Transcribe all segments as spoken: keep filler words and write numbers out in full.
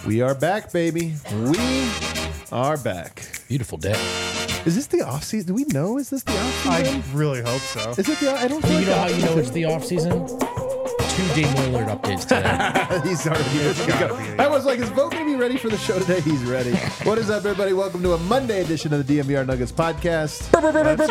We are back, baby. We are back. Beautiful day. Is this the off season? Do we know? Is this the off season? I really hope so. Is it the? I don't. You Feel know like how you know it's the off season? Two Dame Lillard updates today. He's already ready to go. I was like, is Vogt going to be ready for the show today? He's ready. What is up, everybody? Welcome to a Monday edition of the D M V R Nuggets podcast. Let's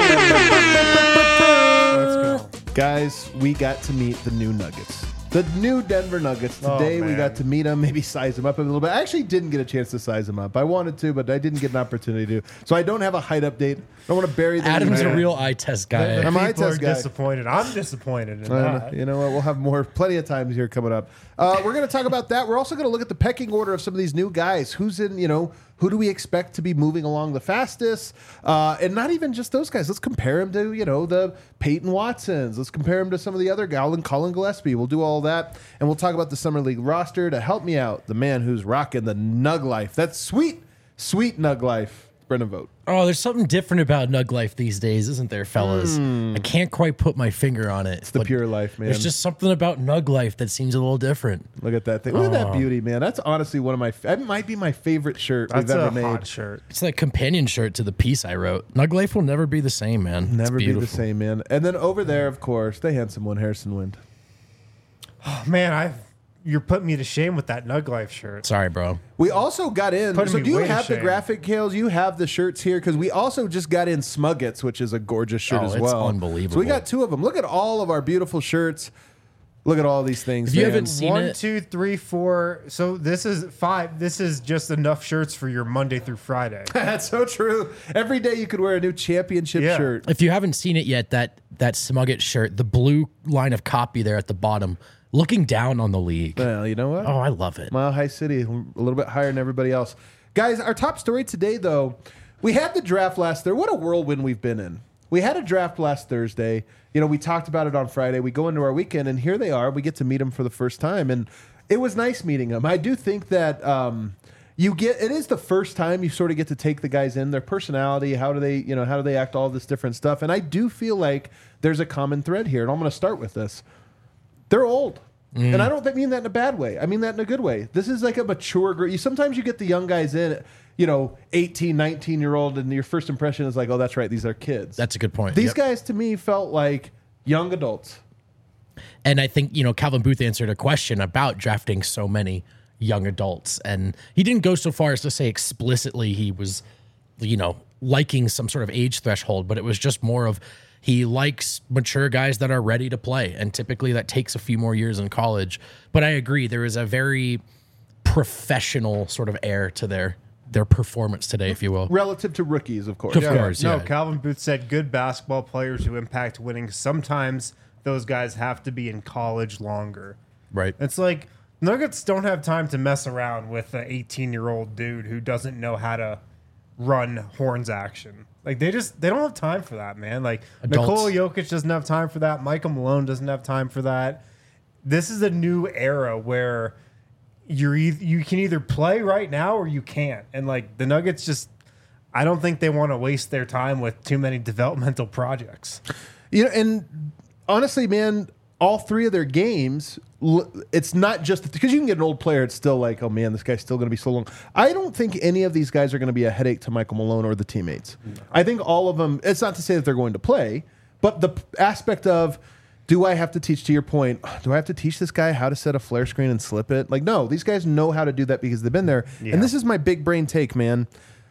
go. Guys, we got to meet the new Nuggets. The new Denver Nuggets. Today Oh, we man. got to meet them, maybe size them up a little bit. I actually didn't get a chance to size them up. I wanted to, but I didn't get an opportunity to. So I don't have a height update. I don't want to bury the Adam's lead. a real eye test guy. The I'm an eye people are test guy. disappointed. I'm disappointed in Uh, that. you know what? We'll have more, plenty of times here coming up. Uh, we're going to talk about that. We're also going to look at the pecking order of some of these new guys. Who's in, you know, who do we expect to be moving along the fastest? Uh, and not even just those guys. Let's compare them to, you know, the Peyton Watsons. Let's compare them to some of the other guys, and Colin Gillespie. We'll do all that. And we'll talk about the Summer League roster. To help me out, the man who's rocking the Nug Life. That's sweet, sweet Nug Life. Brendan Vogt. Oh, there's something different about Nug Life these days, isn't there, fellas? I can't quite put my finger on it. It's the pure life, man. There's just something about Nug Life that seems a little different. Look at that thing. Look at that beauty, man. That's honestly one of my, that might be my favorite shirt That's we've ever a made. hot shirt. It's like companion shirt to the piece I wrote. Nug Life will never be the same, man. It's Never be the beautiful. same, man. And then over there, of course, the handsome one, Harrison Wind. Oh, man, I you're putting me to shame with that Nug Life shirt. Sorry, bro. We also got in. Putting So me do you way to have the shame. graphic, Kales? You have the shirts here because we also just got in Smuggets, which is a gorgeous shirt Oh, as it's well. unbelievable. So we got two of them. Look at all of our beautiful shirts. Look at all these things. If you man. haven't seen One, it, two, three, four. So this is five. This is just enough shirts for your Monday through Friday. That's so true. Every day you could wear a new championship Yeah. shirt. if you haven't seen it yet, that that Smugget shirt, the blue line of copy there at the bottom, looking down on the league. Well, you know what? Oh, I love it. Mile High City, a little bit higher than everybody else. Guys, our top story today, though, we had the draft last Thursday. What a whirlwind we've been in. We had a draft last Thursday. You know, we talked about it on Friday. We go into our weekend, and here they are. We get to meet them for the first time, and it was nice meeting them. I do think that um, you get it is the first time you sort of get to take the guys in, their personality, how do they, you know, how do they act, all this different stuff. And I do feel like there's a common thread here, and I'm going to start with this. They're old. Mm. And I don't mean that in a bad way. I mean that in a good way. This is like a mature group. You, sometimes you get the young guys in, you know, eighteen, nineteen-year-old, and your first impression is like, oh, that's right, these are kids. That's a good point. These Yep. guys, to me, felt like young adults. And I think, you know, Calvin Booth answered a question about drafting so many young adults. And he didn't go so far as to say explicitly he was, you know, liking some sort of age threshold, but it was just more of he likes mature guys that are ready to play. And typically that takes a few more years in college. But I agree, there is a very professional sort of air to their their performance today, if you will. Relative to rookies, of course. Of Yeah. course. No, yeah. Calvin Booth said good basketball players who impact winning. Sometimes those guys have to be in college longer. Right. It's like Nuggets don't have time to mess around with an eighteen-year-old dude who doesn't know how to run horns action. Like they just they don't have time for that, man. Like Adults. Nikola Jokic doesn't have time for that. Michael Malone doesn't have time for that. This is a new era where you're e- you can either play right now or you can't. And like the Nuggets just I don't think they want to waste their time with too many developmental projects. You know, and honestly, man, all three of their games, l- it's not just because you can get an old player. It's still like, oh man, this guy's still going to be so long. I don't think any of these guys are going to be a headache to Michael Malone or the teammates. I think all of them. It's not to say that they're going to play, but the p- aspect of, do I have to teach, to your point, do I have to teach this guy how to set a flare screen and slip it? Like, no, these guys know how to do that because they've been there. Yeah. And this is my big brain take, man.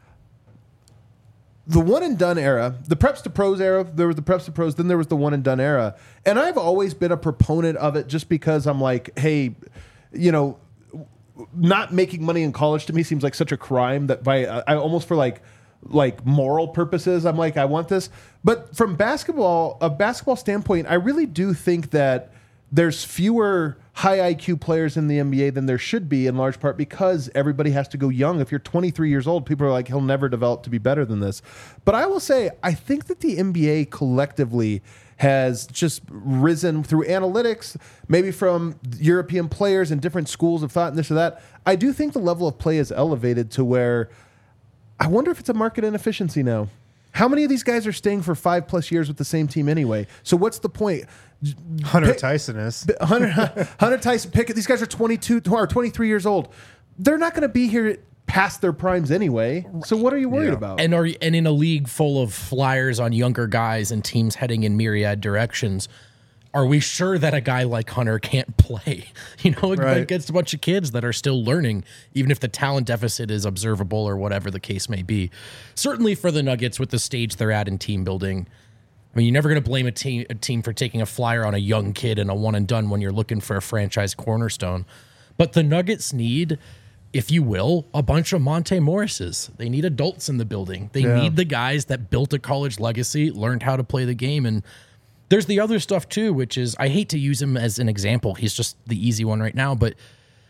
The one and done era, the preps to pros era, there was the preps to pros, then there was the one and done era. And I've always been a proponent of it just because I'm like, hey, you know, not making money in college to me seems like such a crime that by I almost for like like moral purposes, I'm like, I want this. But from basketball, a basketball standpoint, I really do think that there's fewer high I Q players in the N B A than there should be, in large part because everybody has to go young. If you're twenty-three years old, people are like, he'll never develop to be better than this. But I will say, I think that the N B A collectively has just risen through analytics, maybe from European players and different schools of thought and this or that. I do think the level of play is elevated to where I wonder if it's a market inefficiency now. How many of these guys are staying for five plus years with the same team anyway? So what's the point? Hunter Pick- Tyson is. Hunter, Hunter Tyson Pickett. These guys are twenty-two or twenty-three years old. they're not going to be here past their primes anyway. So what are you worried Yeah. about? And are and in a league full of flyers on younger guys and teams heading in myriad directions, are we sure that a guy like Hunter can't play? You know, Right. against a bunch of kids that are still learning, even if the talent deficit is observable or whatever the case may be. Certainly for the Nuggets with the stage they're at in team building, I mean, you're never going to blame a team a team for taking a flyer on a young kid and a one and done when you're looking for a franchise cornerstone. But the Nuggets need, if you will, a bunch of Monte Morrises. They need adults in the building. They Yeah. need the guys that built a college legacy, learned how to play the game. And there's the other stuff too, which is, I hate to use him as an example. He's just the easy one right now. But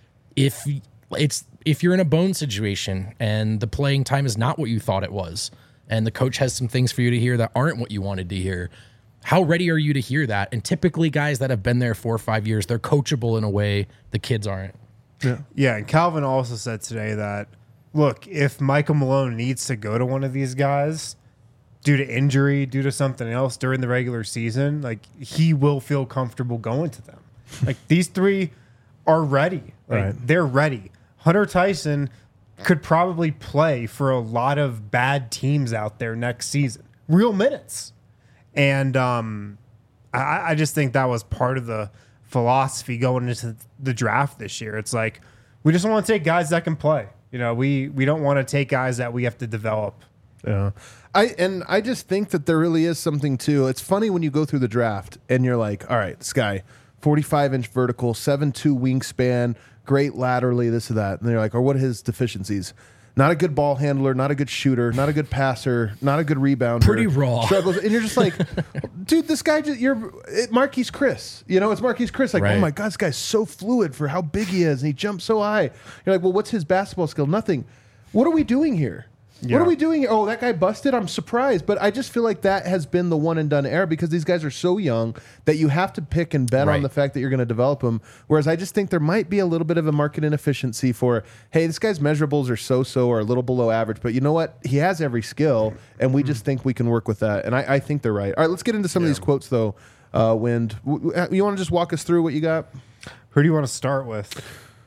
if it's if you're in a bone situation and the playing time is not what you thought it was, and the coach has some things for you to hear that aren't what you wanted to hear, how ready are you to hear that? And typically guys that have been there four or five years, they're coachable in a way the kids aren't. Yeah, and Calvin also said today that, look, if Michael Malone needs to go to one of these guys due to injury, due to something else during the regular season, like, he will feel comfortable going to them. Like, these three are ready. Like, Right. they're ready. Hunter Tyson could probably play for a lot of bad teams out there next season. Real minutes. And um, I, I just think that was part of the philosophy going into the draft this year. It's like, we just want to take guys that can play. You know, we we don't want to take guys that we have to develop. Yeah. I and I just think that there really is something too. It's funny when you go through the draft and you're like, all right, this guy, forty-five inch vertical, seven two wingspan, great laterally, this or that. And they're like, or what are his deficiencies? Not a good ball handler, not a good shooter, not a good passer, not a good rebounder. Pretty raw. Struggles. And you're just like, dude, this guy, just, you're it, Marquise Chris. You know, it's Marquise Chris. Like, Right. oh my God, this guy's so fluid for how big he is. And he jumps so high. You're like, well, what's his basketball skill? Nothing. What are we doing here? What Yeah. are we doing here? Oh, that guy busted. I'm surprised. But I just feel like that has been the one and done era because these guys are so young that you have to pick and bet on Right. the fact that you're going to develop them. Whereas I just think there might be a little bit of a market inefficiency for, hey, this guy's measurables are so-so or a little below average. But you know what? He has every skill, and we just think we can work with that. And I, I think they're right. All right, let's get into some of these quotes, though. Uh, Wind, W- w- you want to just walk us through what you got? Who do you want to start with?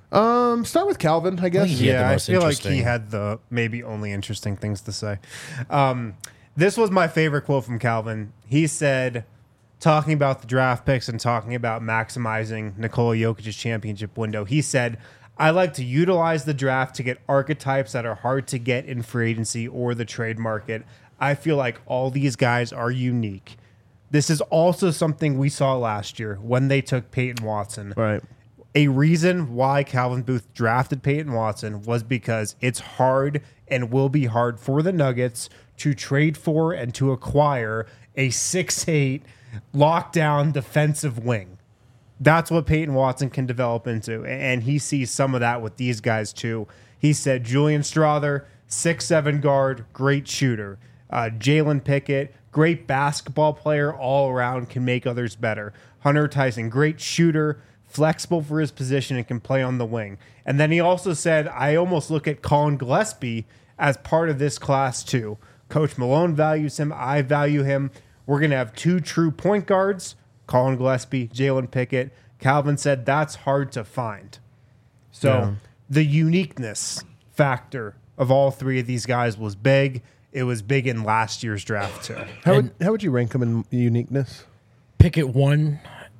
Um, start with Calvin, I guess. He had the Yeah, I most feel like he interesting. had the maybe only interesting things to say. Um, this was my favorite quote from Calvin. He said, talking about the draft picks and talking about maximizing Nikola Jokic's championship window, he said, I like to utilize the draft to get archetypes that are hard to get in free agency or the trade market. I feel like all these guys are unique. This is also something we saw last year when they took Peyton Watson. Right. A reason why Calvin Booth drafted Peyton Watson was because it's hard and will be hard for the Nuggets to trade for and to acquire a six eight lockdown defensive wing. That's what Peyton Watson can develop into, and he sees some of that with these guys too. He said Julian Strother, six seven guard, great shooter. Uh, Jalen Pickett, great basketball player all around, can make others better. Hunter Tyson, great shooter, flexible for his position and can play on the wing. And then he also said, I almost look at Colin Gillespie as part of this class too. Coach Malone values him. I value him. We're going to have two true point guards, Colin Gillespie, Jalen Pickett. Calvin said that's hard to find. So Yeah. the uniqueness factor of all three of these guys was big. It was big in last year's draft too. How would, how would you rank them in uniqueness? Pickett one,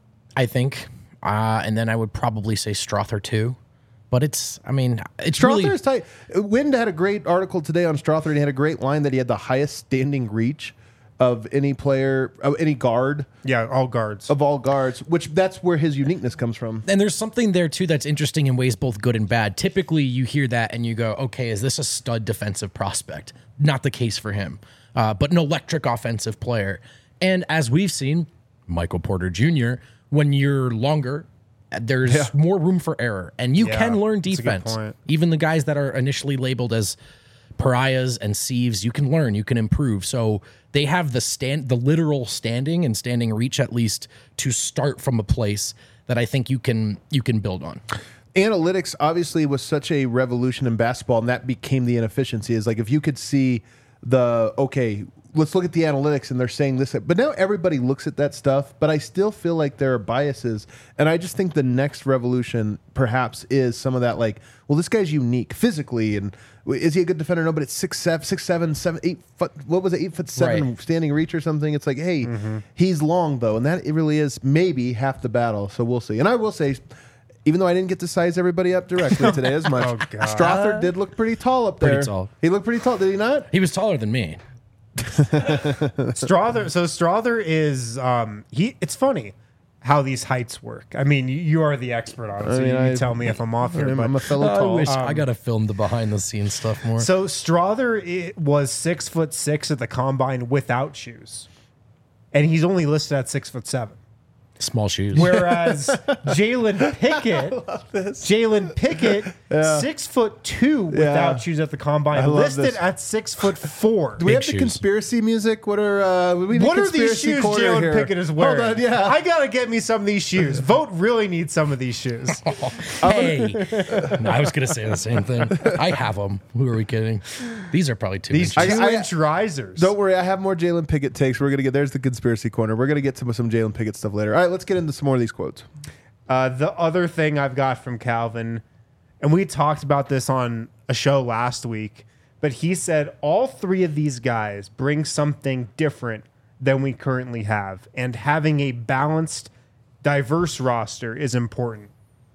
I think. Uh, and then I would probably say Strother two. But it's, I mean, it's Strother really... is tight. Wind had a great article today on Strother, and he had a great line that he had the highest standing reach of any player, of any guard, Yeah, all guards. of all guards, which that's where his uniqueness comes from. And there's something there, too, that's interesting in ways both good and bad. Typically, you hear that and you go, okay, is this a stud defensive prospect? Not the case for him, uh, but an electric offensive player. And as we've seen, Michael Porter Junior, when you're longer, there's Yeah. more room for error. And you Yeah, can learn that's a good defense. point. Even the guys that are initially labeled as pariahs and sieves, you can learn, you can improve. So they have the stand, the literal standing and standing reach, at least, to start from a place that I think you can you can build on. Analytics obviously was such a revolution in basketball, and that became the inefficiency. Is like if you could see the okay, let's look at the analytics and they're saying this, but now everybody looks at that stuff, but I still feel like there are biases. And I just think the next revolution perhaps is some of that, like, well, this guy's unique physically. And is he a good defender? No, but it's six, seven, six, seven, seven, eight foot. What was it? Eight foot seven Right. standing reach or something. It's like, hey, mm-hmm. he's long though. And that it really is maybe half the battle. So we'll see. And I will say, even though I didn't get to size everybody up directly today as much, Oh, God. Strother did look pretty tall up there. Pretty tall. He looked pretty tall, did he not? He was taller than me. Strother. So Strother is um he. It's funny how these heights work. I mean, you, you are the expert on it, so I mean, you, I- you tell me if I'm off here. I'm, but I'm a fellow I tall. wish Um, I got to film the behind the scenes stuff more. So Strother it was six foot six at the combine without shoes, and he's only listed at six foot seven. Small shoes. Whereas Jalen Pickett, Jalen Pickett, Yeah. six foot two without shoes at the combine, I love listed this. at six foot four. Do we Big have the shoes. conspiracy music? What are uh, we need What are these conspiracy shoes corner Jalen here. Pickett is wearing? Hold on, yeah. I gotta get me some of these shoes. Vote really needs some of these shoes. Hey, no, I was gonna say the same thing. I have them. Who are we kidding? These are probably two These inches. two I- inch risers. Don't worry, I have more Jalen Pickett takes. We're gonna get there's the conspiracy corner. We're gonna get to some Jalen Pickett stuff later. All right, let's get into some more of these quotes. Uh, the other thing I've got from Calvin, and we talked about this on a show last week, but he said all three of these guys bring something different than we currently have, and having a balanced, diverse roster is important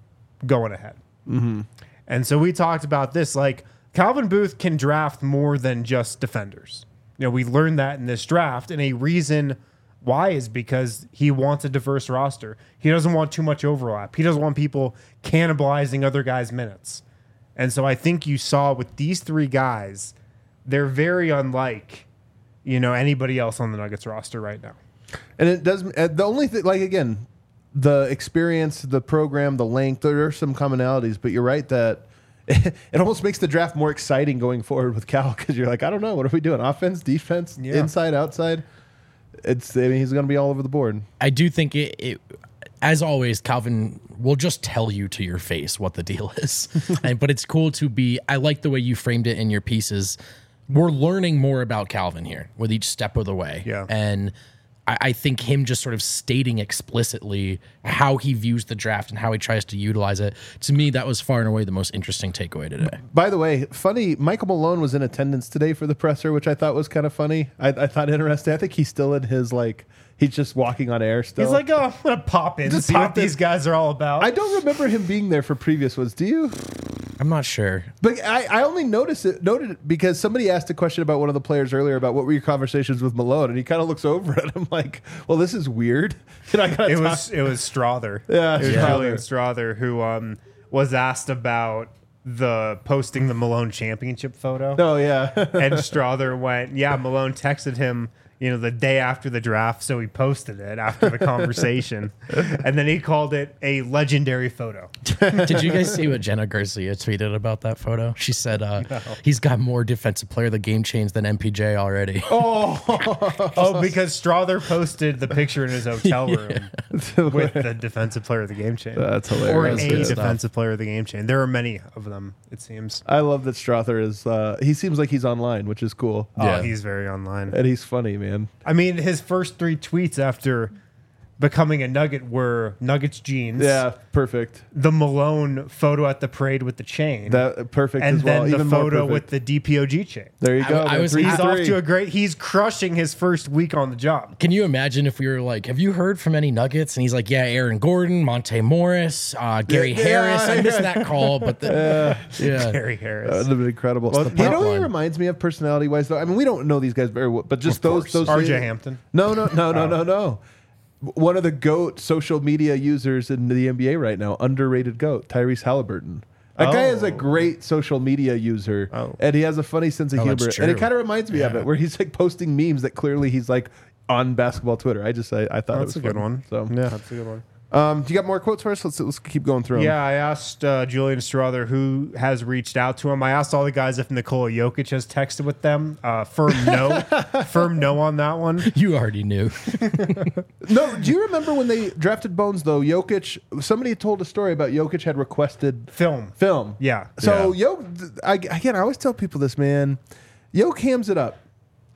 going ahead. Mm-hmm. And so we talked about this, like Calvin Booth can draft more than just defenders. You know, we learned that in this draft, and a reason why is because he wants a diverse roster. He doesn't want too much overlap. He doesn't want people cannibalizing other guys' minutes. And so I think you saw with these three guys, they're very unlike, you know, anybody else on the Nuggets roster right now. And it does uh, the only thing, like again, the experience, the program, the length. There are some commonalities, but you're right that it almost makes the draft more exciting going forward with Cal because you're like, I don't know, what are we doing? Offense, defense, Yeah. inside, outside. It's I mean he's going to be all over the board. I do think it, it, as always, Calvin will just tell you to your face what the deal is. and, but it's cool to be, I like the way you framed it in your pieces. We're learning more about Calvin here with each step of the way. Yeah. And I, I think him just sort of stating explicitly how he views the draft and how he tries to utilize it, to me, that was far and away the most interesting takeaway today. By the way, funny, Michael Malone was in attendance today for the presser, which I thought was kind of funny. I, I thought interesting. I think he's still in his, like, he's just walking on air still. He's like, oh, I'm going to pop in and Just see pop what in. these guys are all about. I don't remember him being there for previous ones. Do you? I'm not sure. But I, I only noticed it noted it because somebody asked a question about one of the players earlier about what were your conversations with Malone, and he kind of looks over at him like, "Well, this is weird." And I gotta it talk- was it was Strother. Yeah, it was Strother. Julian Strother who um, was asked about the posting the Malone championship photo. Oh yeah, And Strother went, yeah, Malone texted him, you know, the day after the draft, so he posted it after the conversation. And then he called it a legendary photo. Did you guys see what Jenna Garcia tweeted about that photo? She said uh, he's got more defensive player of the game chains than M P J already. Oh, because Strother posted the picture in his hotel room with the defensive player of the game chain. That's Or hilarious. a good stuff. defensive player of the game chain. There are many of them, it seems. I love that Strother is. Uh, he seems like he's online, which is cool, Yeah. Oh, he's very online. and he's funny, man. I mean, his first three tweets after becoming a Nugget were Nuggets jeans. Yeah, perfect. The Malone photo at the parade with the chain. That perfect and as well. then the Even more photo perfect. with the D P O G chain. There you I- go. I man. was- Three He's for off three. to a great. He's crushing his first week on the job. Can you imagine if we were like, have you heard from any Nuggets? And he's like, yeah, Aaron Gordon, Monte Morris, uh, Gary Yeah, Harris. yeah, I missed yeah. that call, but the, yeah. Gary Harris. That would have been incredible. the you know pop what he line. reminds me of personality wise, though? I mean, we don't know these guys very well, but just Of those course. those R J Hampton. No, no, no, no, no, no. One of the GOAT social media users in the N B A right now, underrated GOAT, Tyrese Halliburton. That guy is a Oh. great social media user, Oh. and he has a funny sense of Oh, that's humor. And it true. kind of reminds me of Yeah. it, where he's like posting memes that clearly he's like on basketball Twitter. I just I, I thought it was That's a good fun. one. So, yeah, that's a good one. um, do you got more quotes for us? Let's let's keep going through 'em. Yeah, I asked uh, Julian Strother who has reached out to him. I asked all the guys if Nikola Jokic has texted with them. Uh, firm no, firm no on that one. You already knew. No, do you remember when they drafted Bones though? Jokic, somebody told a story about Jokic had requested Film. film. Yeah. So Yo, I, again, I always tell people this, man. Yo hams it up.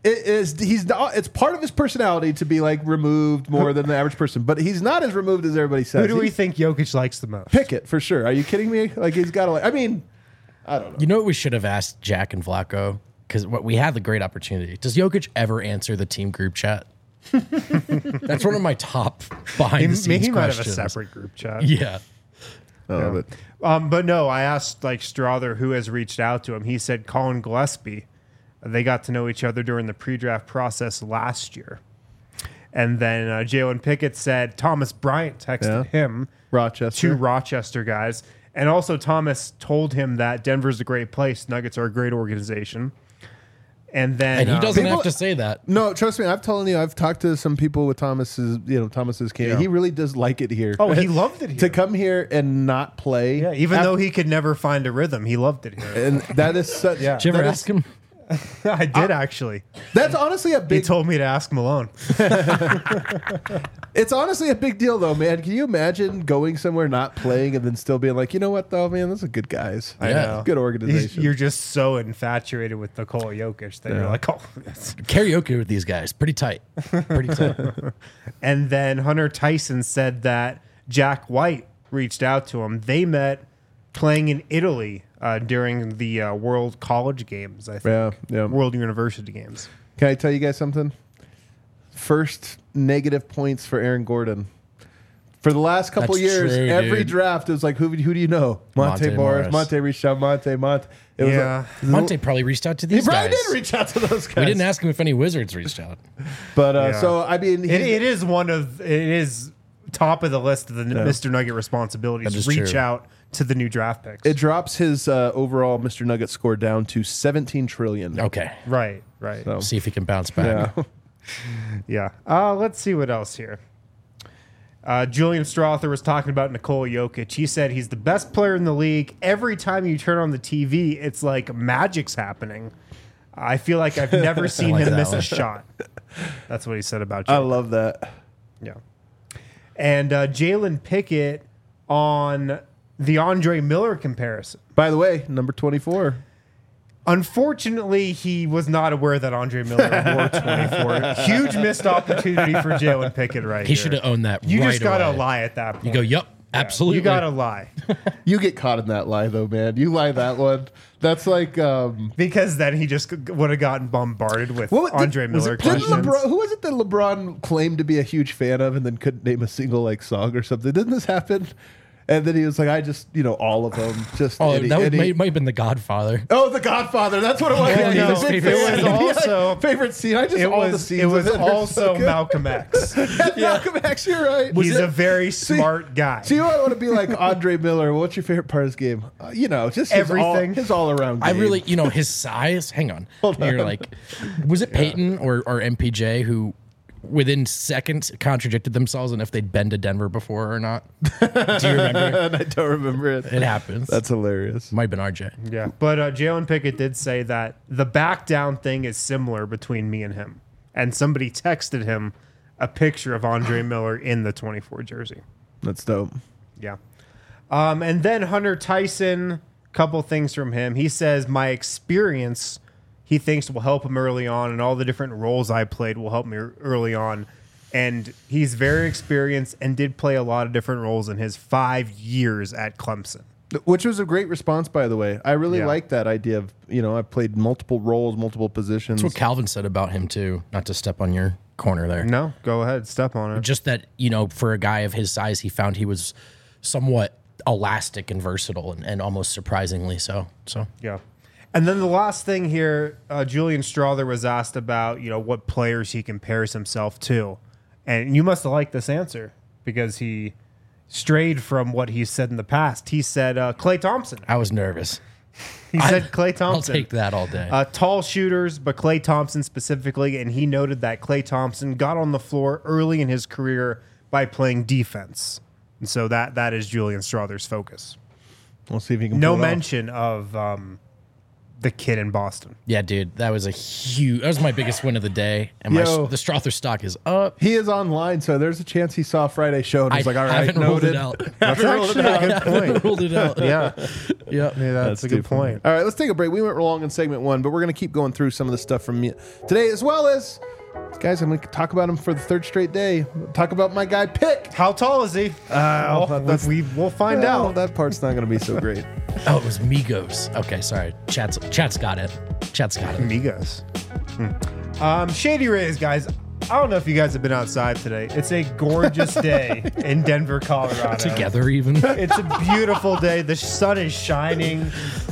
It is he's not, it's part of his personality to be like removed more than the average person, but he's not as removed as everybody says. Who do we He's- think Jokic likes the most? Pickett for sure? Are you kidding me? Like he's got to like. I mean, I don't know. You know what we should have asked Jack and Vlaco? Because we had the great opportunity. Does Jokic ever answer the team group chat? That's one of my top behind the He, scenes he might have a questions. separate group chat. Yeah. Oh, but Um, but no, I asked like Strother who has reached out to him. He said Colin Gillespie. They got to know each other during the pre-draft process last year. And then uh, Jalen Pickett said Thomas Bryant texted Yeah. him, Rochester. two Rochester guys. And also Thomas told him that Denver's a great place. Nuggets are a great organization. And then And he uh, doesn't people- have to say that. No, trust me. I've told you. I've talked to some people with Thomas's. You know, Thomas's camp. Yeah. He really does like it here. Oh, he loved it here. to come here and not play. Yeah, even Af- though he could never find a rhythm, he loved it here. and that is such. Yeah. Did you ever that is- ask him? I did actually. That's honestly a He big. told me to ask Malone. It's honestly a big deal, though, man. Can you imagine going somewhere not playing and then still being like, you know what, though, man, those are good guys. I Yeah. know. Good He's- organization. You're just so infatuated with Nikola Jokic that you're Yeah. like, oh. Yes. Karaoke with these guys. Pretty tight. Pretty tight. And then Hunter Tyson said that Jack White reached out to him. They met playing in Italy uh, during the uh, World College Games, I think. Yeah, yeah. World University Games. Can I tell you guys something? First negative points for Aaron Gordon. For the last couple That's years, true, every dude. draft it was like, who, who do you know? Monte, Monte Morris, Morris. Monte reached out, Monte, Monte. It was Yeah. like- Monte probably reached out to He these probably guys. did reach out to those guys. We didn't ask him if any Wizards reached out. But uh, Yeah. so I mean, It, he's- it is one of, it is top of the list of the Yeah. Mister Nugget responsibilities. That is Reach true. out to the new draft picks. it drops his uh, overall Mister Nugget score down to seventeen trillion. Okay. right, right. So, See if he can bounce back. yeah. Yeah. Uh, let's see what else here. Uh, Julian Strother was talking about Nikola Jokic. He said he's the best player in the league. Every time you turn on the T V, it's like magic's happening. I feel like I've never seen like him that miss one. a shot. That's what he said about I Jokic. love that. Yeah. And uh, Jalen Pickett on the Andre Miller comparison. By the way, number twenty-four. Unfortunately, he was not aware that Andre Miller wore twenty-four. Huge missed opportunity for Jalen Pickett right He here. should have owned that You right just gotta away. lie at that point. You go, yup, absolutely. You gotta lie You get caught in that lie, though, man. You lie that one. That's like. Um, because then he just would have gotten bombarded with what, Andre did, was Miller it- didn't questions. LeBron, who was it that LeBron claimed to be a huge fan of and then couldn't name a single like song or something? Didn't this happen? And then he was like, I just, you know, all of them. Just Oh, any- that would, any- might, might have been The Godfather. Oh, The Godfather. That's what it was. Yeah, He's a no, big favorite fan. scene. It was also- favorite scene. I just It all the was, scenes. it was of are also so good. Malcolm X. Malcolm X. You're right. He's it- a very See- smart guy. So you want to be like Andre Miller? What's your favorite part of his game? Uh, you know, just his Everything. All, his all around. I really, you know, his size. Hang on. You're like, was it Peyton or, or M P J who within seconds contradicted themselves and if they'd been to Denver before or not? Do you remember? and I don't remember it. It happens. That's hilarious. Might have been R J. Yeah, but uh, Jalen Pickett did say that the back down thing is similar between me and him. And somebody texted him a picture of Andre Miller in the twenty-four jersey. That's dope. Yeah. Um, and then Hunter Tyson, couple things from him. He says, my experience, he thinks will help him early on, and all the different roles I played will help me early on. And he's very experienced and did play a lot of different roles in his five years at Clemson. Which was a great response, by the way. I really Yeah. like that idea of, you know, I played multiple roles, multiple positions. That's what Calvin said about him too. Not to step on your corner there. No, go ahead, step on it. Just that, you know, for a guy of his size, he found he was somewhat elastic and versatile and, and almost surprisingly so. So Yeah. And then the last thing here, uh, Julian Strother was asked about, you know, what players he compares himself to. And you must have liked this answer because he strayed from what he said in the past. He said uh, Klay Thompson. I was nervous. He said Klay I'll Thompson. take that all day. Uh, tall shooters, but Klay Thompson specifically. And he noted that Klay Thompson got on the floor early in his career by playing defense. And so that that is Julian Strother's focus. We'll see if he can No pull it off. mention of um, the kid in Boston. Yeah, dude, that was a huge. That was my biggest win of the day, and my Yo. the Strother stock is up. He is online, so there's a chance he saw Friday show and I he's like, all right, haven't ruled noted. it out. That's actually a good point. Ruled it out. Yeah, Yeah. yeah, that's, a good point. All right, let's take a break. We went long in segment one, but we're going to keep going through some of the stuff from me today, as well as, guys, I'm going to talk about him for the third straight day. Talk about my guy, Pick. How tall is he? Uh, Well, that's- we we'll find Well, out. that part's not going to be so great. Oh, it was Migos. Okay, sorry. Chat's Chat's got it. Chat's got it. Amigos. Hmm. Um, Shady Rays, guys. I don't know if you guys have been outside today. It's a gorgeous day in Denver, Colorado. Together, even. It's a beautiful day. The sun is shining.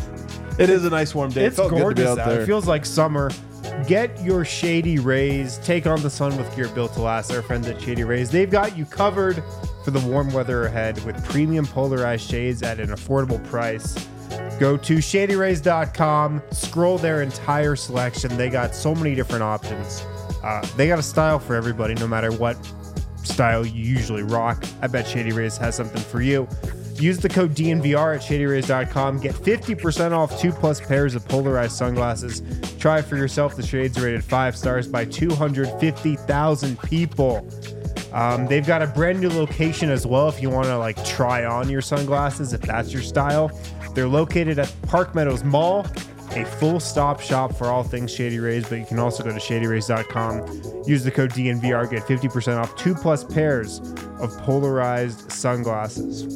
It is a nice warm day. It's it felt gorgeous good to be out out. there. It feels like summer. Get your Shady Rays. Take on the sun with gear built to last. Our friends at Shady Rays. They've got you covered for the warm weather ahead with premium polarized shades at an affordable price. Go to shady rays dot com. Scroll their entire selection. They got so many different options. Uh, they got a style for everybody, no matter what style you usually rock. I bet Shady Rays has something for you. Use the code D N V R at shady rays dot com. Get fifty percent off two plus pairs of polarized sunglasses. Try for yourself. The shades are rated five stars by two hundred fifty thousand people. Um, they've got a brand new location as well if you want to like try on your sunglasses, if that's your style. They're located at Park Meadows Mall, a full stop shop for all things Shady Rays, but you can also go to shady rays dot com. Use the code D N V R, get fifty percent off two plus pairs of polarized sunglasses.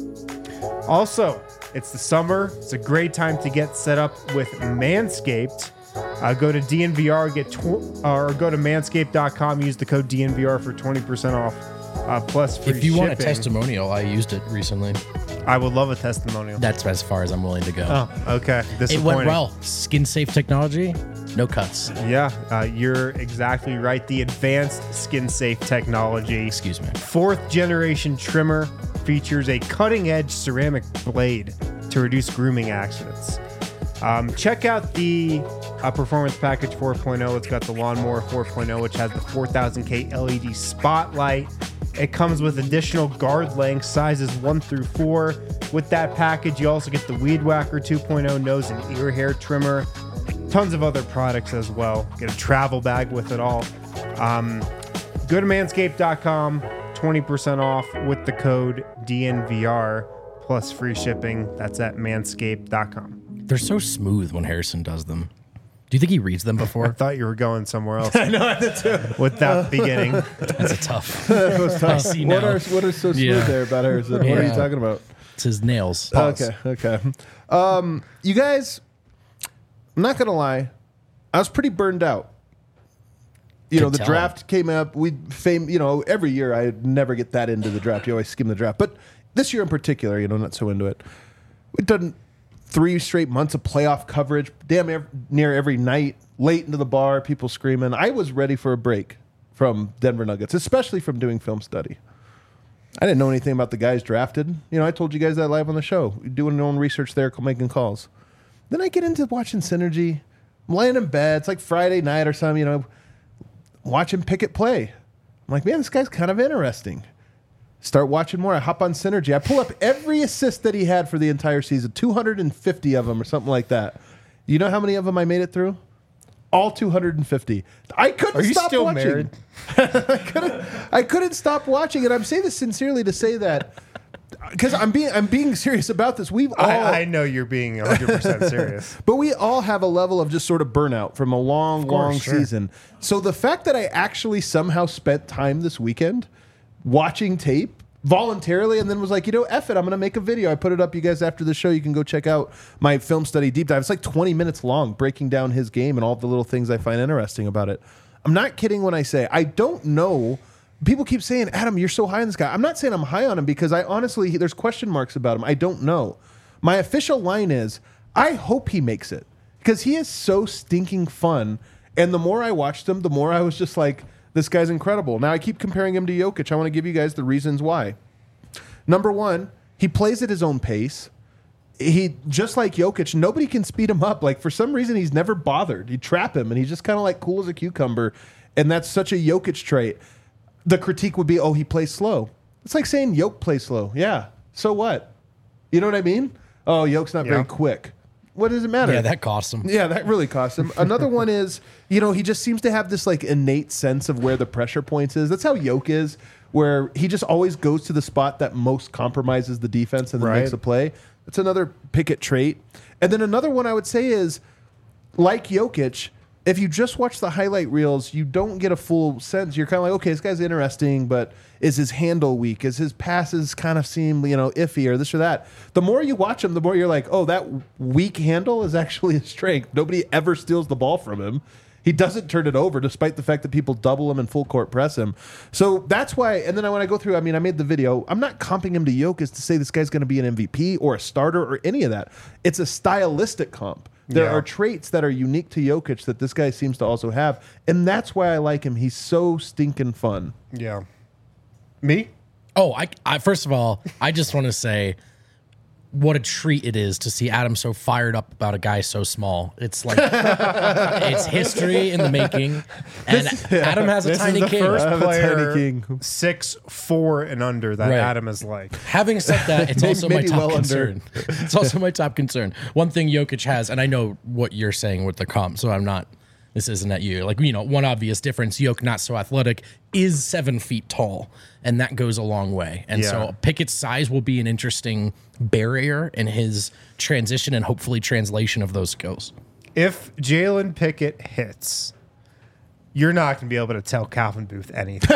Also, it's the summer. It's a great time to get set up with Manscaped. Uh, go to D N V R, get tw- or go to manscaped dot com. Use the code D N V R for twenty percent off, uh, plus free If you want a shipping. testimonial, I used it recently. I would love a testimonial. That's as far as I'm willing to go. Oh, okay. It Disappointing. went well. Skin safe technology, no cuts. Yeah, uh, you're exactly right. The advanced skin safe technology. Excuse me. Fourth generation trimmer features a cutting edge ceramic blade to reduce grooming accidents. Um, check out the uh, Performance Package four point oh. It's got the Lawnmower four point oh, which has the four thousand K L E D spotlight. It comes with additional guard lengths, sizes one through four. With that package, you also get the Weed Whacker two point oh nose and ear hair trimmer. Tons of other products as well. Get a travel bag with it all. Um, go to manscaped dot com, twenty percent off with the code D N V R plus free shipping. That's at manscaped dot com. They're so smooth when Harrison does them. Do you think he reads them I before? thought you were going somewhere else. I know, I did too. With that beginning. That's a tough. That was tough. I see what now. are what are so smooth Yeah. there about Harrison? What are you Yeah. talking about? It's his nails. Pause. Okay, okay. Um, you guys, I'm not gonna lie, I was pretty burned out. You know, Could the tell. draft came up. We fame. You know, every year I never get that into the draft. You always skim the draft, but this year in particular, you know, not so into it. We've done three straight months of playoff coverage, damn ev- near every night, late into the bar, people screaming. I was ready for a break from Denver Nuggets, especially from doing film study. I didn't know anything about the guys drafted. You know, I told you guys that live on the show, doing your own research there, making calls. Then I get into watching Synergy. I'm laying in bed. It's like Friday night or something, you know, watching Pickett play. I'm like, man, this guy's kind of interesting. Start watching more. I hop on Synergy. I pull up every assist that he had for the entire season, two hundred fifty of them or something like that. You know how many of them I made it through? All two hundred fifty. I couldn't Are you stop still watching. married? I couldn't. I couldn't stop watching, and I'm saying this sincerely to say that because I'm being I'm being serious about this. We've all, I, I know you're being one hundred percent serious. but we all have a level of just sort of burnout from a long, course, long sure. season. So the fact that I actually somehow spent time this weekend watching tape voluntarily and then was like, you know, F it, I'm going to make a video. I put it up. You guys, after the show, you can go check out my film study deep dive. It's like twenty minutes long, breaking down his game and all the little things I find interesting about it. I'm not kidding when I say I don't know. People keep saying, Adam, you're so high on this guy. I'm not saying I'm high on him because I honestly, there's question marks about him. I don't know. My official line is, I hope he makes it because he is so stinking fun. And the more I watched him, the more I was just like, this guy's incredible. Now I keep comparing him to Jokic. I want to give you guys the reasons why. Number one, he plays at his own pace. He, just like Jokic, nobody can speed him up. Like, for some reason, he's never bothered. You trap him, and he's just kind of like cool as a cucumber. And that's such a Jokic trait. The critique would be, oh, he plays slow. It's like saying Jokic plays slow. Yeah, so what? You know what I mean? Oh, Jokic not Yeah. very quick. what does it matter? Yeah, that cost him. Yeah, that really cost him. Another one is, you know, he just seems to have this like innate sense of where the pressure points is. That's how Yoke is, where he just always goes to the spot that most compromises the defense and then Right. makes a play. That's another Pickett trait. And then another one I would say is, like Jokic, if you just watch the highlight reels, you don't get a full sense. You're kind of like, okay, this guy's interesting, but is his handle weak? Is his passes kind of seem, you know, iffy or this or that? The more you watch him, the more you're like, oh, that weak handle is actually a strength. Nobody ever steals the ball from him. He doesn't turn it over, despite the fact that people double him and full court press him. So that's why. And then when I go through, I mean, I made the video. I'm not comping him to Jokic to say this guy's going to be an M V P or a starter or any of that. It's a stylistic comp. There Yeah. are traits that are unique to Jokic that this guy seems to also have, and that's why I like him. He's so stinking fun. Yeah. Me? Oh, I, I first of all, I just want to say what a treat it is to see Adam so fired up about a guy so small. It's like it's history in the making. And Adam has a This tiny is the king. first I have a tiny player king. six four and under that Right. Adam is like. Having said that, it's Maybe- also my maybe top well under. concern. It's also my top concern. One thing Jokic has, and I know what you're saying with the comp, so I'm not. This isn't at you. Like, you know, one obvious difference, Jokic, not so athletic, is seven feet tall, and that goes a long way. And Yeah. so Pickett's size will be an interesting barrier in his transition and hopefully translation of those skills. If Jalen Pickett hits, you're not going to be able to tell Calvin Booth anything.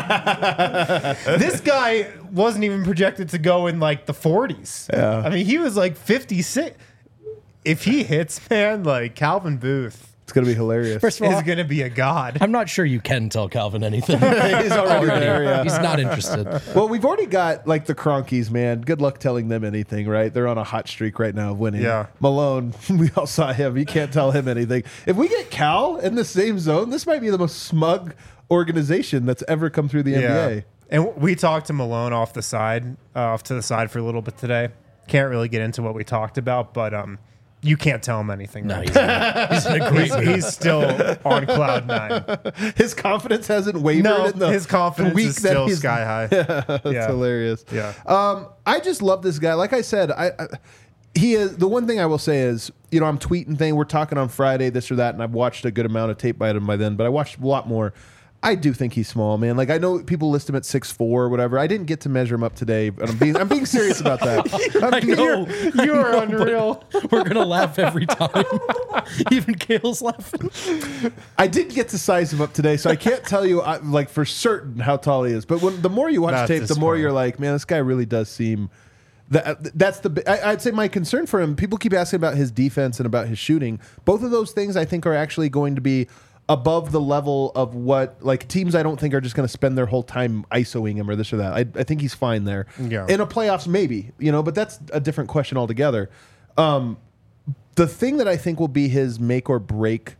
This guy wasn't even projected to go in like the forties. Yeah. I mean, he was like fifty-six. If he hits, man, like Calvin Booth It's going to be hilarious. First of all, is going to be a god. I'm not sure you can tell Calvin anything. He's already there, yeah. He's not interested. Well, we've already got like the Cronkies, man. Good luck telling them anything, right? They're on a hot streak right now of winning. Yeah. Malone, we all saw him. You can't tell him anything. If we get Cal in the same zone, this might be the most smug organization that's ever come through the N B A. And we talked to Malone off the side, uh, off to the side for a little bit today. Can't really get into what we talked about, but um, you can't tell him anything. No, right? he's, in, he's in a great he's, mood. he's still on cloud nine. His confidence hasn't wavered No, in the his confidence week is that still he's- sky high. That's Yeah. hilarious. Yeah. Um, I just love this guy. Like I said, I, I he is the one thing I will say is, you know, I'm tweeting thing. We're talking on Friday, this or that, and I've watched a good amount of tape by him by then, but I watched a lot more. I do think he's small, man. Like I know people list him at six four or whatever. I didn't get to measure him up today, but I'm being I'm being serious about that. I'm I being- know. You are unreal. We're going to laugh every time. Even Kale's laughing. I didn't get to size him up today, so I can't tell you I, like for certain how tall he is. But when the more you watch That's tape, the more disappointing. you're like, man, this guy really does seem. That, that's the. I, I'd say my concern for him. People keep asking about his defense and about his shooting. Both of those things I think are actually going to be above the level of what like teams I don't think are just going to spend their whole time ISOing him or this or that. I, I think he's fine there. Yeah. In a playoffs, maybe, you know, but that's a different question altogether. Um, the thing that I think will be his make or break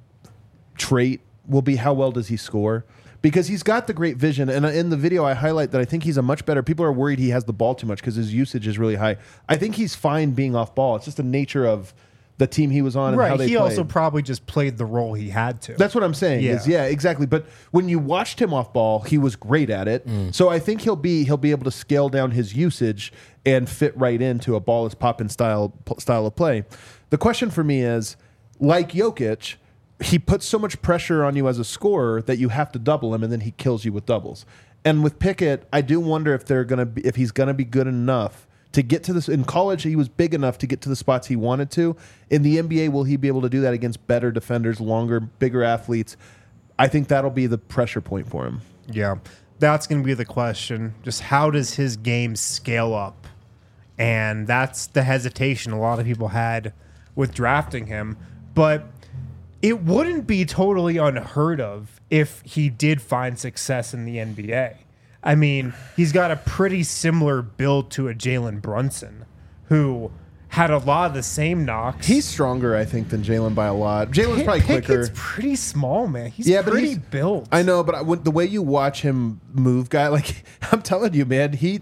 trait will be how well does he score, because he's got the great vision. And in the video, I highlight that I think he's a much better. People are worried he has the ball too much because his usage is really high. I think he's fine being off ball. It's just the nature of the team he was on and how Right. they He played. also probably just played the role he had to. That's what I'm saying. Is Yeah. yeah, exactly. But when you watched him off ball, he was great at it. So I think he'll be he'll be able to scale down his usage and fit right into a ball is popping style style of play. The question for me is, like Jokic, he puts so much pressure on you as a scorer that you have to double him, and then he kills you with doubles. And with Pickett, I do wonder if they're gonna be if he's gonna be good enough to get to this. In college, he was big enough to get to the spots he wanted to. In the N B A, will he be able to do that against better defenders, longer, bigger athletes? I think that'll be the pressure point for him. Yeah. That's going to be the question. Just how does his game scale up? And that's the hesitation a lot of people had with drafting him. But it wouldn't be totally unheard of if he did find success in the N B A. I mean, he's got a pretty similar build to a Jalen Brunson, who had a lot of the same knocks. He's stronger, I think, than Jalen by a lot. Jalen's probably quicker. Pickett's pretty small, man. He's Yeah, but pretty he's- built. I know, but I, when, the way you watch him move, guy, like I'm telling you, man, he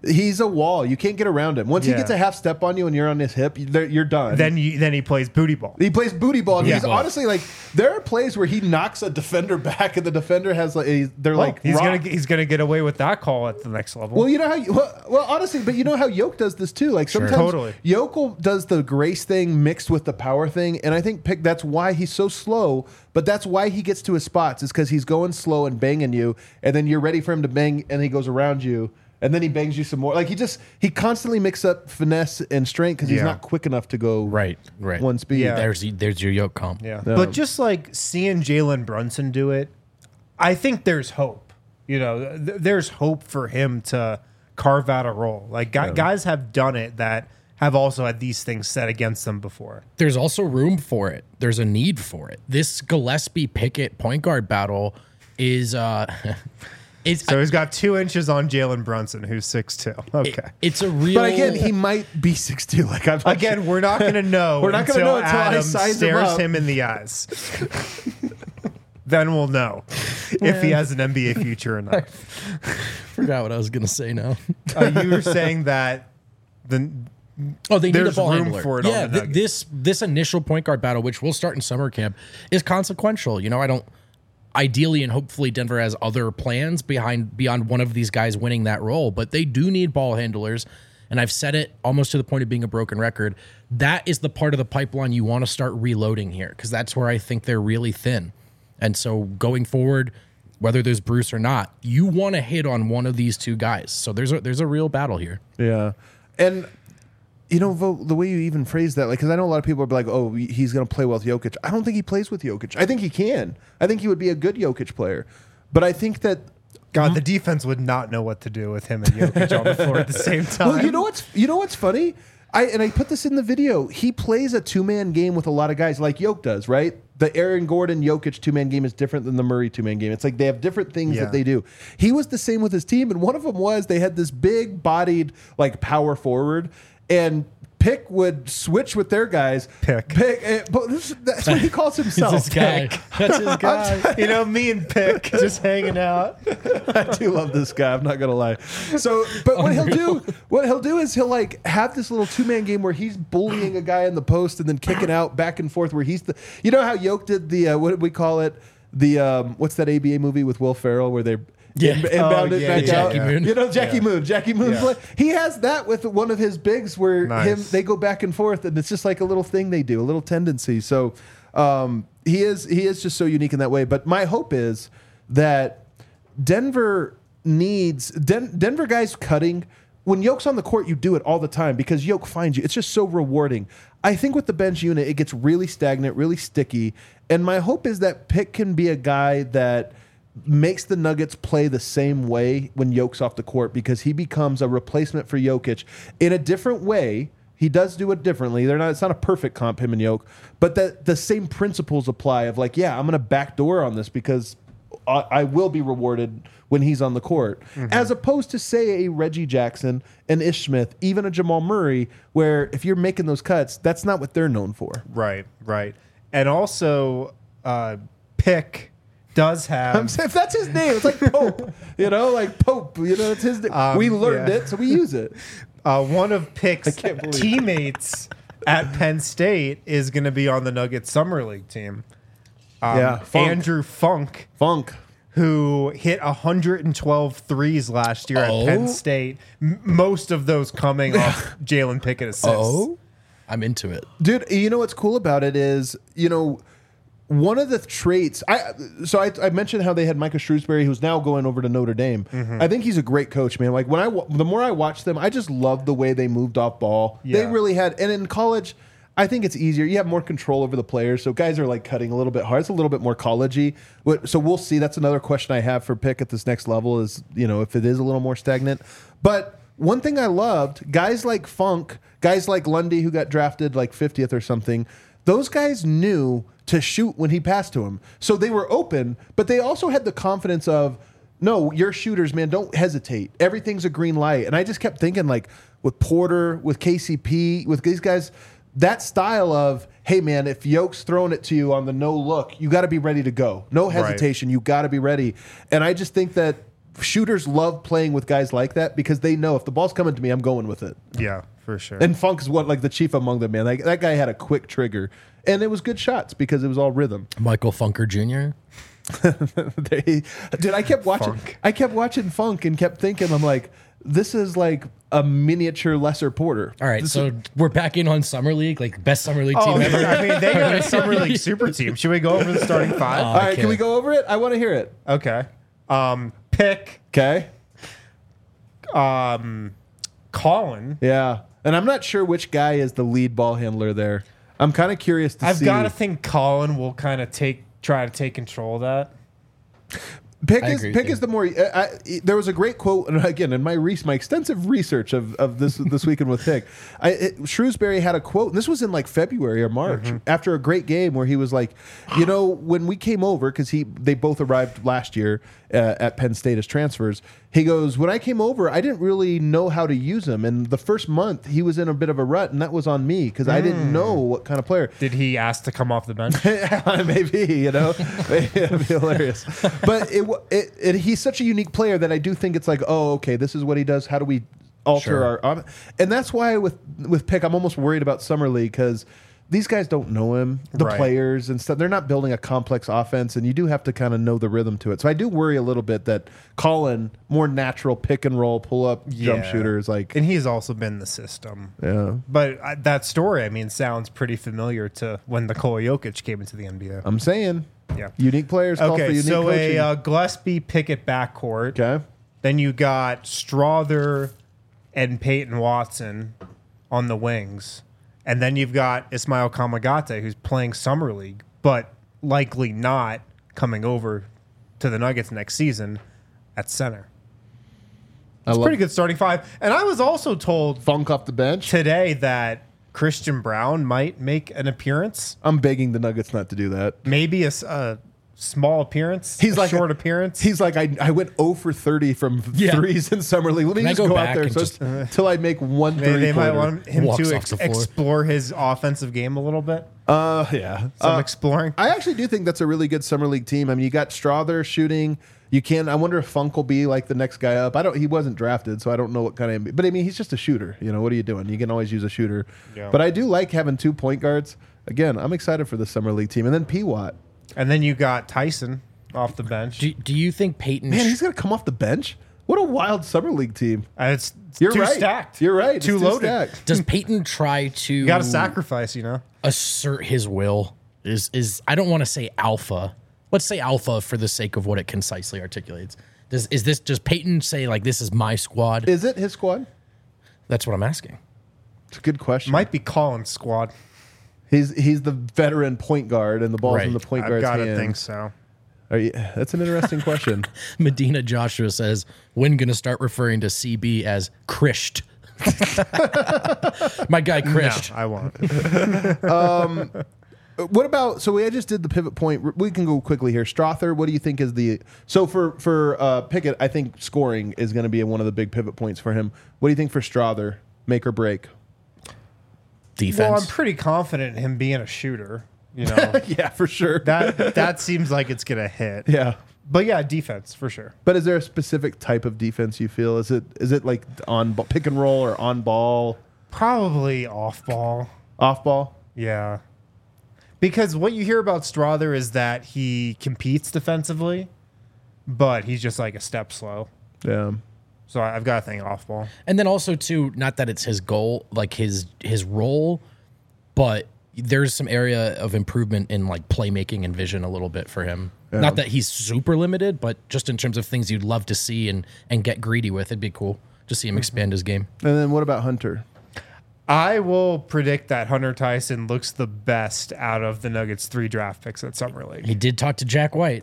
He's a wall. You can't get around him. Once Yeah. he gets a half step on you and you're on his hip, you're, you're done. Then you, then he plays booty ball. He plays booty ball. And Booty he's ball. honestly like, there are plays where he knocks a defender back, and the defender has like, a, they're like, he's rock. gonna he's gonna get away with that call at the next level. Well, you know how, you, well, well, honestly, but you know how Yoke does this too. Like sometimes Totally. Yoke does the grace thing mixed with the power thing, and I think Pick, that's why he's so slow. But that's why he gets to his spots, is because he's going slow and banging you, and then you're ready for him to bang, and he goes around you. And then he bangs you some more. Like he just he constantly mixes up finesse and strength because he's Yeah. not quick enough to go Right, right. one speed. Yeah. There's there's your yoke comp. yeah. Yeah. But just like seeing Jalen Brunson do it, I think there's hope. You know, th- there's hope for him to carve out a role. Like gu- guys have done it that have also had these things set against them before. There's also room for it. There's a need for it. This Gillespie Pickett point guard battle is uh is So he's got two inches on Jalen Brunson, who's six two. Okay. it's a real But again, he might be six two. Like I'm not Again, we're not going to know. We're not gonna until know until I Adam size him stares up. him in the eyes. Then we'll know if he has an N B A future or not. forgot what I was gonna say now. Uh, you were saying that the Oh, they need a There's ball room handler. for it on Yeah, the th- Nuggets. this this initial point guard battle, which will start in summer camp, is consequential. You know, I don't. Ideally and hopefully, Denver has other plans behind beyond one of these guys winning that role, but they do need ball handlers. And I've said it almost to the point of being a broken record. That is the part of the pipeline you want to start reloading here, because that's where I think they're really thin. And so going forward, whether there's Bruce or not, you want to hit on one of these two guys. So there's a, there's a real battle here. Yeah, and you know Vo, the way you even phrase that, like, because I know a lot of people are like, "Oh, he's going to play well with Jokic." I don't think he plays with Jokic. I think he can. I think he would be a good Jokic player, but I think that. God, the defense would not know what to do with him and Jokic on the floor at the same time. Well, you know what's you know what's funny? I and I put this in the video. He plays a two man game with a lot of guys, like Yoke does, right? The Aaron Gordon Jokic two man game is different than the Murray two man game. It's like they have different things Yeah. that they do. He was the same with his team, and one of them was they had this big bodied like power forward, and Pick would switch with their guys. Pick. Pick. eh, But this, that's what he calls himself. It's this guy. Pick. That's his guy. you know, me and Pick just hanging out. I do love this guy. I'm not gonna lie. So, but what he'll do, what he'll do is he'll like have this little two man game where he's bullying a guy in the post and then kicking out back and forth. Where he's the, you know how Yoke did the uh, what did we call it? The um, what's that A B A movie with Will Ferrell where they Yeah. in- inbound Oh, it yeah, back yeah, out? Jackie Moon. You know Jackie Yeah. Moon. Jackie Moon. Yeah. Play. He has that with one of his bigs where Nice. him they go back and forth and it's just like a little thing they do, a little tendency. So um, he is he is just so unique in that way. But my hope is that Denver needs Den- Denver guys cutting. When Yoke's on the court, you do it all the time because Yoke finds you. It's just so rewarding. I think with the bench unit, it gets really stagnant, really sticky. And my hope is that Pick can be a guy that makes the Nuggets play the same way when Yoke's off the court because he becomes a replacement for Jokic in a different way. He does do it differently. They're not. It's not a perfect comp, him and Yoke, but that the same principles apply. Of like, yeah, I'm going to backdoor on this because I, I will be rewarded when he's on the court, Mm-hmm. as opposed to say a Reggie Jackson, an Ish Smith, even a Jamal Murray, where if you're making those cuts, that's not what they're known for. Right, right. And also, uh, Pick does have. I'm saying, if that's his name, it's like Pope, you know, like Pope, you know, it's his name. Um, we learned yeah. it, so we use it. Uh, one of Pick's can't believe it. teammates at Penn State is going to be on the Nuggets Summer League team. Um, Yeah, Funk. Andrew Funk, Funk. who hit one hundred twelve threes last year Oh. at Penn State, m- most of those coming off Jalen Pickett assists. Oh, I'm into it. Dude, you know what's cool about it is, you know, one of the traits I so I, I mentioned how they had Micah Shrewsbury, who's now going over to Notre Dame. Mm-hmm. I think he's a great coach, man. Like when I wa- the more I watch them, I just love the way they moved off ball. They Yeah. really had, and in college, I think it's easier. You have more control over the players, so guys are like cutting a little bit hard. It's a little bit more collegey. What- So we'll see. That's another question I have for Pick at this next level is, you know, if it is a little more stagnant. But one thing I loved, guys like Funk, guys like Lundy, who got drafted like fiftieth or something, those guys knew to shoot when he passed to him. So they were open, but they also had the confidence of, no, you're shooters, man. Don't hesitate. Everything's a green light. And I just kept thinking, like, with Porter, with K C P, with these guys, that style of, hey, man, if Yoke's throwing it to you on the no look, you got to be ready to go. No hesitation. You got to be ready. And I just think that shooters love playing with guys like that because they know if the ball's coming to me, I'm going with it. Yeah, for sure. And Funk is what like the chief among them, man. Like, that guy had a quick trigger, and it was good shots because it was all rhythm. Michael Funker Junior they, dude, I kept watching. Funk. I kept watching Funk and kept thinking, I'm like, this is like a miniature Lesser Porter. All right, This so is- we're back in on Summer League, like best Summer League Oh, team ever. I mean, they got a summer league super team. Should we go over the starting five? all right, okay. can we go over it? I want to hear it. Okay. Um, pick Okay. um, Colin. Yeah, and I'm not sure which guy is the lead ball handler there. I'm kind of curious to I've see. got to think Colin will kind of take try to take control of that. Pick I is agree with pick you. is the more. I, I, there was a great quote, and again, in my re- my extensive research of, of this this weekend with Pick, I, it, Shrewsbury had a quote, and this was in like February or March Mm-hmm. after a great game where he was like, you know, when we came over because he they both arrived last year uh, at Penn State as transfers. He goes, when I came over, I didn't really know how to use him, and the first month he was in a bit of a rut, and that was on me because I Mm. didn't know what kind of player. Did he ask to come off the bench? Maybe, you know, maybe it'd be hilarious. But it, wa- it, it, he's such a unique player that I do think it's like, oh, okay, this is what he does. How do we alter Sure. our? Um, and that's why with with Pick, I'm almost worried about Summer League because these guys don't know him, the Right. players and stuff. They're not building a complex offense, and you do have to kind of know the rhythm to it. So I do worry a little bit that Colin, more natural pick and roll, pull up jump Yeah. shooter, is like, And he's also been the system. yeah. But uh, that story, I mean, sounds pretty familiar to when Nikola Jokic came into the N B A. I'm saying, Yeah. unique players call for Okay, unique so coaching. a uh, Gillespie Pickett backcourt. okay. Then you got Strother and Peyton Watson on the wings. And then you've got Ismail Kamagate, who's playing Summer League, but likely not coming over to the Nuggets next season at center. I It's love pretty good starting five. And I was also told Funk off the bench. today that Christian Brown might make an appearance. I'm begging the Nuggets not to do that. Maybe a, s- a small appearance. He's a like short a- appearance. He's like, I, I went zero for thirty from Yeah. threes in summer league. Let me Can I just go go, out back there and so just- until I make one They, three they might pointer. want him Walks to off ex- the floor. explore his offensive game a little bit. Uh, yeah. Some Uh, exploring. I actually do think that's a really good summer league team. I mean, you got Strother shooting. You can. I wonder if Funk will be like the next guy up. I don't. He wasn't drafted, so I don't know what kind of. But I mean, he's just a shooter. You know, what are you doing? You can always use a shooter. Yeah. But I do like having two point guards. Again, I'm excited for the summer league team, and then P Watt. And then you got Tyson off the bench. Do, do you think Peyton? Man, he's gonna come off the bench. What a wild summer league team. And it's You're too right. stacked. You're right. It's Too too loaded. stacked. does Peyton try to You got to sacrifice, you know. assert his will? Is is I don't want to say alpha. Let's say alpha for the sake of what it concisely articulates. Does is this does Peyton say like this is my squad? Is it his squad? That's what I'm asking. It's a good question. Might be Collins' squad. He's he's the veteran point guard, and the ball's in Right. the point I've guard's got to hands. think so. Are you, that's an interesting question. Medina Joshua says, when gonna start referring to C B as Krisht? My guy Krisht. No, I won't. What about? So we just did the pivot point. We can go quickly here. Strother, what do you think is the? So for for uh, Pickett, I think scoring is going to be one of the big pivot points for him. What do you think for Strother? Make or break? Defense. Well, I'm pretty confident in him being a shooter. You know, Yeah, for sure. that that seems like it's gonna hit. yeah. But yeah, defense for sure. But is there a specific type of defense you feel? Is it is it like on ball, pick and roll or on ball, Probably off ball. off ball? Yeah. Because what you hear about Strother is that he competes defensively, but he's just like a step slow. Yeah. So I- I've got to think off ball. And then also too, not that it's his goal, like his his role, but there's some area of improvement in like playmaking and vision a little bit for him. Yeah. Not that he's super limited, but just in terms of things you'd love to see and and get greedy with, it'd be cool to see him expand his game. And then what about Hunter? I will predict that Hunter Tyson looks the best out of the Nuggets' three draft picks at Summer League. He did talk to Jack White.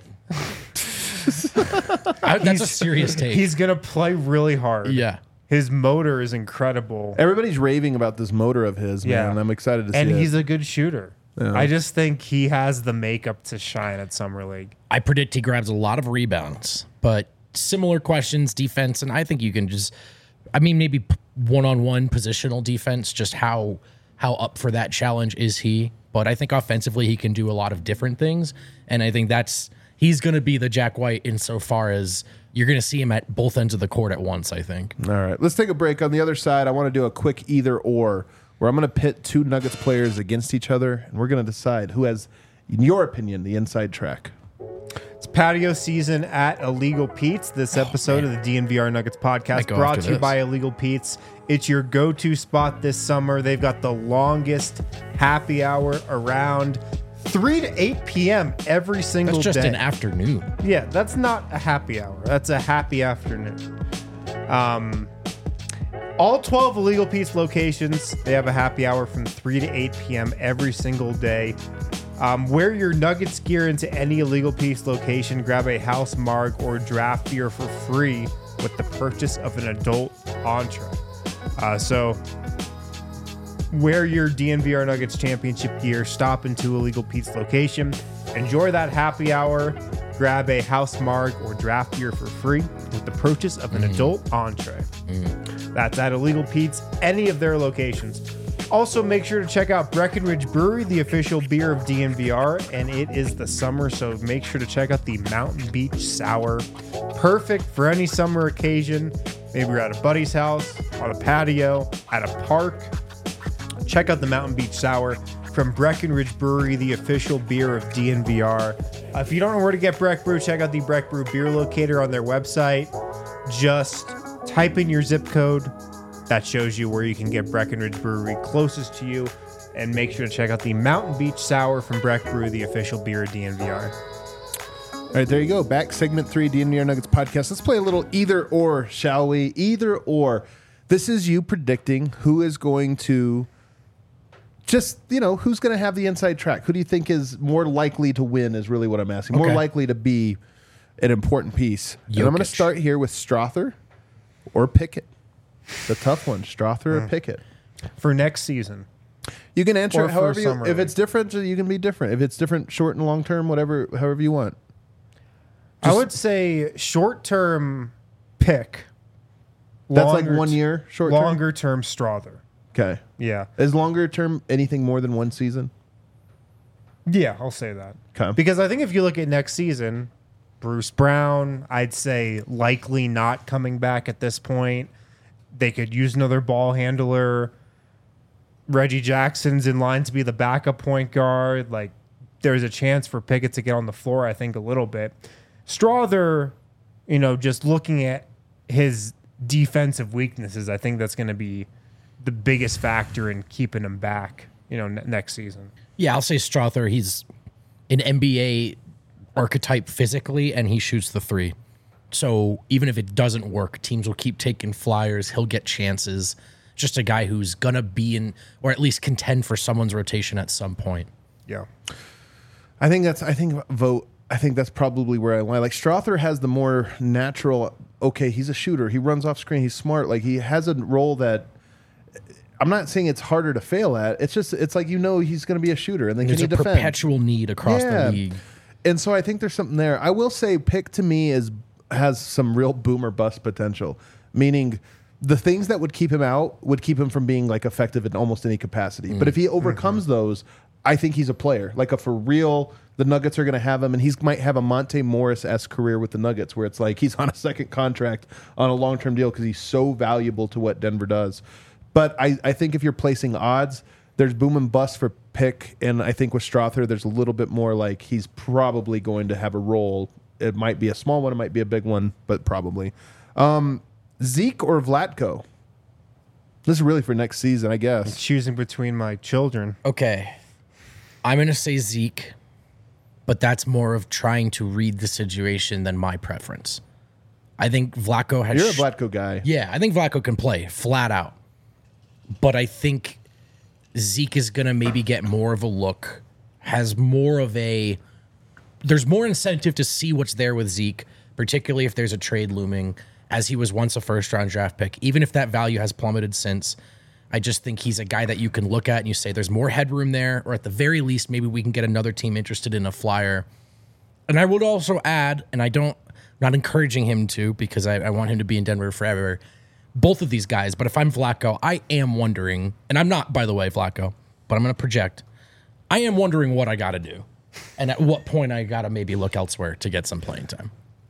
I, that's a serious take. He's going to play really hard. Yeah. His motor is incredible. Everybody's raving about this motor of his, man. Yeah. And I'm excited to And see he's it. a good shooter. Yeah. I just think he has the makeup to shine at Summer League. I predict he grabs a lot of rebounds, but similar questions, defense, and I think you can just, I mean, maybe p- one-on-one positional defense, just how how up for that challenge is he? But I think offensively he can do a lot of different things, and I think that's he's going to be the Jack White insofar as you're going to see him at both ends of the court at once, I think. All right, let's take a break. On the other side, I want to do a quick either or, where I'm going to pit two Nuggets players against each other, and we're going to decide who has, in your opinion, the inside track. It's patio season at Illegal Pete's. This episode Oh, of the D N V R Nuggets Might podcast go brought after to you this. by Illegal Pete's. It's your go-to spot this summer. They've got the longest happy hour around, three to eight p.m. every single That's just day. an afternoon. Yeah, that's not a happy hour. That's a happy afternoon. Um, all twelve Illegal Pete's locations, they have a happy hour from three to eight p.m. every single day. Um, wear your Nuggets gear into any Illegal Pete's location. Grab a house marg or draft beer for free with the purchase of an adult entree. Uh, so wear your D N V R Nuggets championship gear, stop into Illegal Pete's location, enjoy that happy hour, grab a house marg or draft beer for free with the purchase of an adult entree. That's at Illegal Pete's, any of their locations. Also, make sure to check out Breckenridge Brewery, the official beer of D N V R, and it is the summer, so make sure to check out the Mountain Beach Sour. Perfect for any summer occasion. Maybe you're at a buddy's house, on a patio, at a park. Check out the Mountain Beach Sour from Breckenridge Brewery, the official beer of D N V R. Uh, if you don't know where to get Breck Brew, check out the Breck Brew beer locator on their website. Just type in your zip code. That shows you where you can get Breckenridge Brewery closest to you. And make sure to check out the Mountain Beach Sour from Breck Brew, the official beer of D N V R. All right, there you go. Back segment three, D N V R Nuggets podcast. Let's play a little either or, shall we? Either or. This is you predicting who is going to just, you know, who's going to have the inside track. Who do you think is more likely to win is really what I'm asking. More Okay. likely to be an important piece. And I'm going to Jokic. start here with Strother or Pickett. The tough one, Strother or Pickett. For next season. You can answer Or it for however you, summer if league. it's different, you can be different. If it's different, short and long term, whatever, however you want. I would say short term pick. That's like Longer one t- year, short term. Longer term Strother. Okay. Yeah. Is longer term anything more than one season? Yeah, I'll say that. Okay. Because I think if you look at next season, Bruce Brown, I'd say likely not coming back at this point. They could use another ball handler. Reggie Jackson's in line to be the backup point guard. Like, there's a chance for Pickett to get on the floor, I think, a little bit. Strother, you know, just looking at his defensive weaknesses, I think that's going to be the biggest factor in keeping him back, you know, n- next season. Yeah, I'll say Strother. He's an N B A archetype physically, and he shoots the three. So even if it doesn't work, teams will keep taking flyers. He'll get chances. Just a guy who's going to be in, or at least contend for someone's rotation at some point. Yeah. I think that's. I think vote. I think that's probably where I lie. Like Strother has the more natural. Okay, he's a shooter. He runs off screen. He's smart. Like he has a role that. I'm not saying it's harder to fail at. It's just it's like you know he's going to be a shooter, and then There's can a he defend? perpetual need across Yeah. the league. And so I think there's something there. I will say Pick to me is has some real boom or bust potential, meaning the things that would keep him out would keep him from being like effective in almost any capacity. But if he overcomes those, I think he's a player. Like a for real, the Nuggets are going to have him, and he might have a Monte Morris-esque career with the Nuggets where it's like he's on a second contract on a long-term deal because he's so valuable to what Denver does. But I, I think if you're placing odds, there's boom and bust for Pick, and I think with Strother, there's a little bit more like he's probably going to have a role. It might be a small one, it might be a big one, but probably. Um, Zeke or Vlatko? This is really for next season, I guess. Choosing between my children. Okay. I'm going to say Zeke, but that's more of trying to read the situation than my preference. I think Vlatko has... You're a sh- Vlatko guy. Yeah, I think Vlatko can play flat out. But I think Zeke is going to maybe get more of a look, has more of a... There's more incentive to see what's there with Zeke, particularly if there's a trade looming, as he was once a first-round draft pick. Even if that value has plummeted since, I just think he's a guy that you can look at and you say there's more headroom there, or at the very least, maybe we can get another team interested in a flyer. And I would also add, and I don't, not encouraging him to, because I, I want him to be in Denver forever, both of these guys. But if I'm Vlatko, I am wondering, and I'm not, by the way, Vlatko, but I'm going to project. I am wondering what I got to do, and at what point I got to maybe look elsewhere to get some playing time.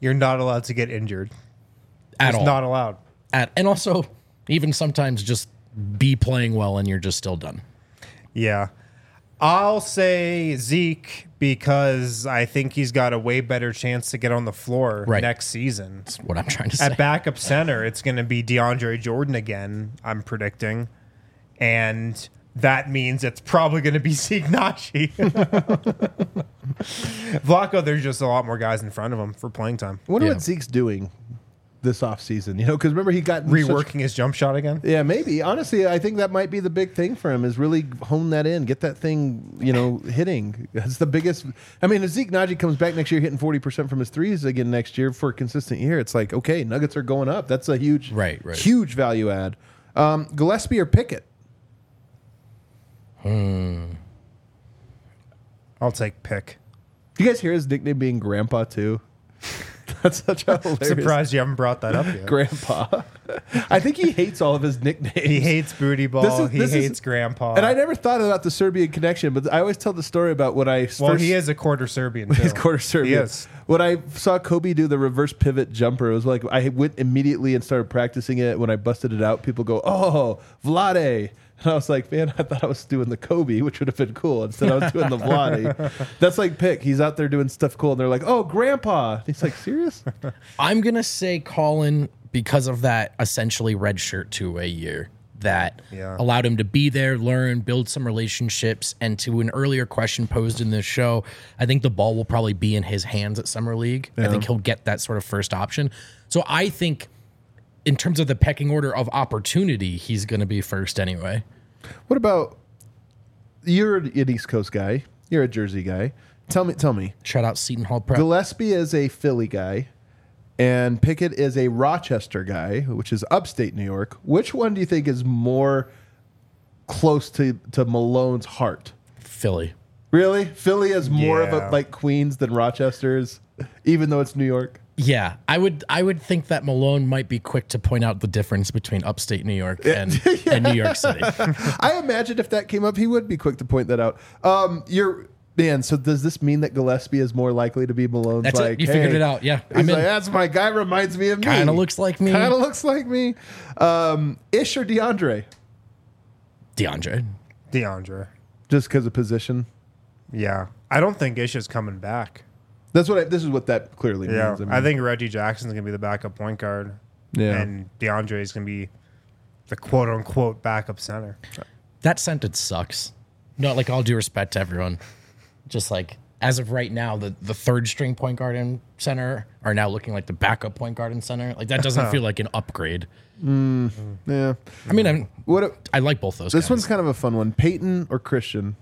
you're not allowed to get injured. At It's all. not allowed. At, and also, even sometimes just be playing well and you're just still done. Yeah. I'll say Zeke because I think he's got a way better chance to get on the floor Right. next season. That's what I'm trying to say. At backup center, it's going to be DeAndre Jordan again, I'm predicting. And that means it's probably going to be Zeke Naji. Vlaco, there's just a lot more guys in front of him for playing time. I wonder Yeah. what Zeke's doing this offseason, you know, because remember he got in such- Reworking his jump shot again? yeah, maybe. Honestly, I think that might be the big thing for him is really hone that in, get that thing, you know, hitting. That's the biggest. I mean, if Zeke Naji comes back next year hitting forty percent from his threes again next year for a consistent year, it's like, okay, Nuggets are going up. That's a huge, Right, right. huge value add. Um, Gillespie or Pickett? I'll take pick. You guys hear his nickname being Grandpa too? That's such a hilarious Surprised you haven't brought that up yet. Grandpa. I think he hates all of his nicknames. He hates booty ball. This is- he this is- hates grandpa. And I never thought about the Serbian connection, but I always tell the story about when I well, first, he is a quarter Serbian. Too. he's quarter Serbian. He is. When I saw Kobe do the reverse pivot jumper, it was like I went immediately and started practicing it. When I busted it out, people go, "Oh, Vlade." And I was like, man, I thought I was doing the Kobe, which would have been cool. Instead, I was doing the Vlade. That's like Pick. He's out there doing stuff cool, and they're like, "Oh, Grandpa." And he's like, "Serious?" I'm going to say Colin because of that essentially red shirt two-way year that Yeah. allowed him to be there, learn, build some relationships. And to an earlier question posed in this show, I think the ball will probably be in his hands at Summer League. I think he'll get that sort of first option. So I think in terms of the pecking order of opportunity, he's going to be first anyway. What about you're an East Coast guy? You're a Jersey guy. Tell me, tell me. Shout out Seton Hall Prep. Gillespie is a Philly guy, and Pickett is a Rochester guy, which is upstate New York. Which one do you think is more close to, to Malone's heart? Philly. Really? Philly is more of Yeah. a like Queens than Rochester is, even though it's New York. Yeah, I would I would think that Malone might be quick to point out the difference between upstate New York and, and New York City. I imagine if that came up, he would be quick to point that out. Um, you're man. So does this mean that Gillespie is more likely to be Malone's? That's it. like, You figured hey, it out. Yeah, he's I'm in. like, that's my guy. Reminds me of me. Kinda looks like me. Kind of looks like me. Um, Ish or DeAndre? DeAndre. DeAndre. Just because of position. Yeah. I don't think Ish is coming back. That's what I, this is what that clearly Yeah. means. I, think Reggie Jackson's going to be the backup point guard. Yeah. And DeAndre is going to be the quote unquote backup center. That sentence sucks. No, like all due respect to everyone. Just like as of right now, the, the third string point guard and center are now looking like the backup point guard and center. Like that doesn't feel like an upgrade. yeah. I mean, I'm, What? a- I like both those. this guys. one's kind of a fun one. Peyton or Christian?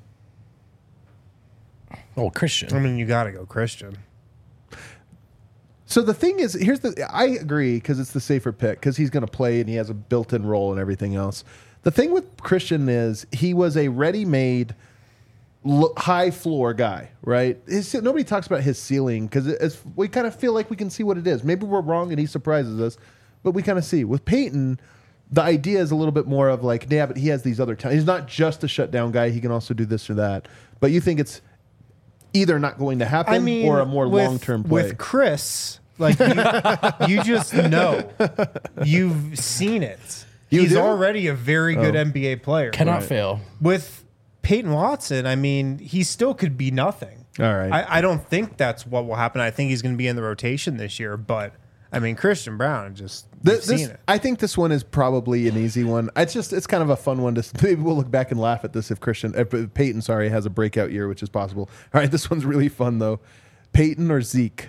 oh I Christian. mean, you got to go Christian. So the thing is, here's the. I agree because it's the safer pick because he's going to play and he has a built-in role and everything else. The thing with Christian is he was a ready-made, l- high-floor guy, right? His, nobody talks about his ceiling because we kind of feel like we can see what it is. Maybe we're wrong and he surprises us, but we kind of see. With Peyton, the idea is a little bit more of like, yeah, but he has these other talents. He's not just a shutdown guy. He can also do this or that. But you think it's either not going to happen I mean, or a more with- long-term play. With Chris, like you, you just know. You've seen it. You He's do? already a very good Oh. N B A player. Cannot fail. With Peyton Watson, I mean, he still could be nothing. All right. I, I don't think that's what will happen. I think he's going to be in the rotation this year. But I mean, Christian Brown just Th- you've this, seen it. I think this one is probably an easy one. It's just it's kind of a fun one to s- maybe we'll look back and laugh at this if Christian if Peyton sorry has a breakout year, which is possible. All right, this one's really fun though. Peyton or Zeke?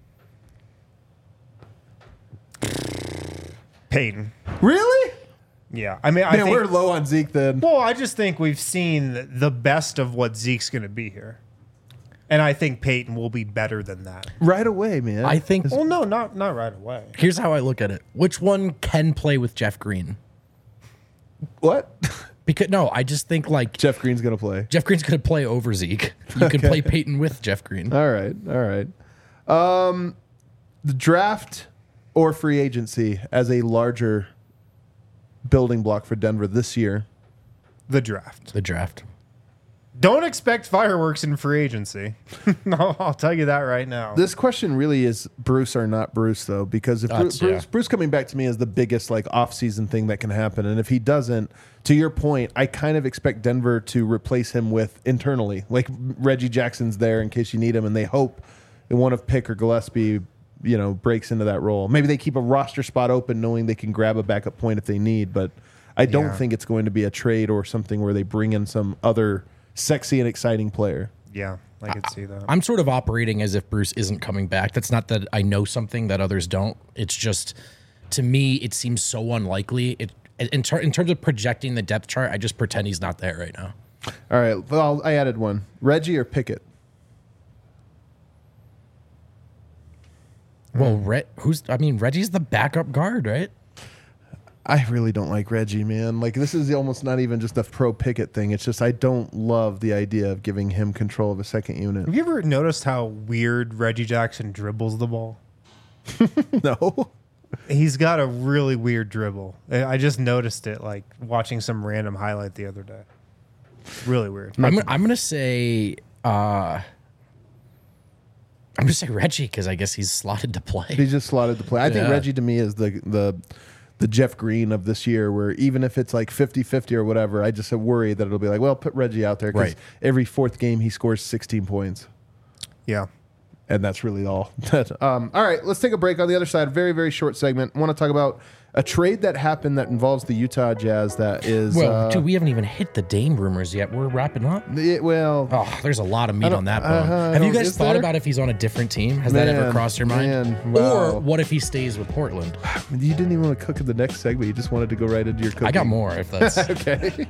Peyton. Really? Yeah, I mean, I Man, think. we're low on Zeke then. Well, I just think we've seen the best of what Zeke's going to be here, and I think Peyton will be better than that. Right away, man. I think. Well, no, not not right away. Here's how I look at it. Which one can play with Jeff Green? What? Because no, I just think like Jeff Green's gonna play. Jeff Green's going to play over Zeke. You can play Peyton with Jeff Green. All right, all right. Um, the draft or free agency as a larger building block for Denver this year. The draft. The draft. Don't expect fireworks in free agency. No, I'll tell you that right now. This question really is Bruce or not Bruce, though, because if That's- Bruce, Bruce, yeah. Bruce coming back to me is the biggest like off-season thing that can happen, and if he doesn't, to your point, I kind of expect Denver to replace him with internally, like Reggie Jackson's there in case you need him, and they hope one of Pick or Gillespie, you know, breaks into that role. Maybe they keep a roster spot open, knowing they can grab a backup point if they need, but I don't Yeah. think it's going to be a trade or something where they bring in some other sexy and exciting player. Yeah, I could see that. I'm sort of operating as if Bruce isn't coming back. That's not that I know something that others don't. It's just, to me, it seems so unlikely. It in, ter- in terms of projecting the depth chart, I just pretend he's not there right now. All right, well, I added one. Reggie or Pickett? Well, Re- who's? I mean, Reggie's the backup guard, right? I really don't like Reggie, man. Like, this is almost not even just a pro Pickett thing. It's just I don't love the idea of giving him control of a second unit. Have you ever noticed how weird Reggie Jackson dribbles the ball? No. He's got a really weird dribble. I I just noticed it, like watching some random highlight the other day. Really weird. I'm, I'm gonna say. Uh, I'm gonna say Reggie because I guess he's slotted to play. He just slotted the play. I think Yeah. Reggie to me is the the the Jeff Green of this year, where even if it's like fifty-fifty or whatever, I just worry that it'll be like, well, put Reggie out there because Right. every fourth game he scores sixteen points. Yeah. And that's really all. um, all right, let's take a break. On the other side, very, very short segment. I want to talk about a trade that happened that involves the Utah Jazz that is... Well, uh, dude, we haven't even hit the Dame rumors yet. We're wrapping up. it- well, Oh, there's a lot of meat don't- on that uh, bone. I Have you don't- guys is thought there? about if he's on a different team? Has that ever Man, crossed your mind? man, wow. Or what if he stays with Portland? you didn't even want to cook in the next segment. You just wanted to go right into your cooking. I got more if that's. Okay.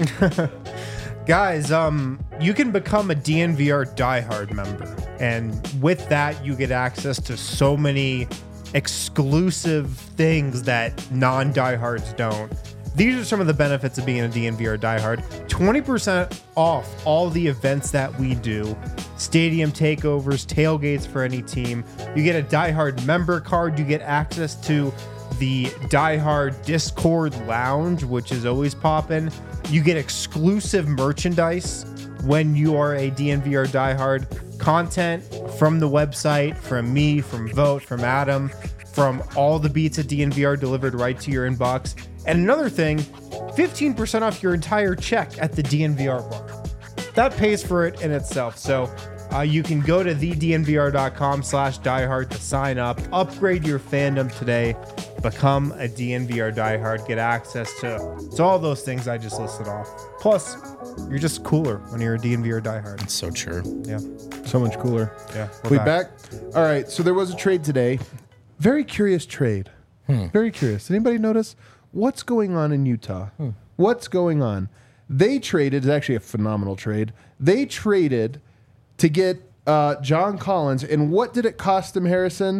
Guys, um, you can become a D N V R diehard member, and with that, you get access to so many exclusive things that non-diehards don't. These are some of the benefits of being a D N V R diehard. twenty percent off all the events that we do. Stadium takeovers, tailgates for any team. You get a diehard member card. You get access to the diehard Discord lounge, which is always popping. You get exclusive merchandise when you are a D N V R diehard. Content from the website, from me, from Vote, from Adam, from all the beats at D N V R delivered right to your inbox. And another thing, fifteen percent off your entire check at the D N V R bar. That pays for it in itself. So uh, you can go to the d n v r dot com slash diehard to sign up, upgrade your fandom today, become a D N V R diehard, get access to, to all those things I just listed off. Plus, you're just cooler when you're a D N V R diehard. It's so true. Yeah. So much cooler. Yeah. We back? All right. So there was a trade today. Very curious trade. Very curious. Did anybody notice what's going on in Utah? What's going on? They traded. It's actually a phenomenal trade. They traded to get uh, John Collins, and what did it cost them, Harrison?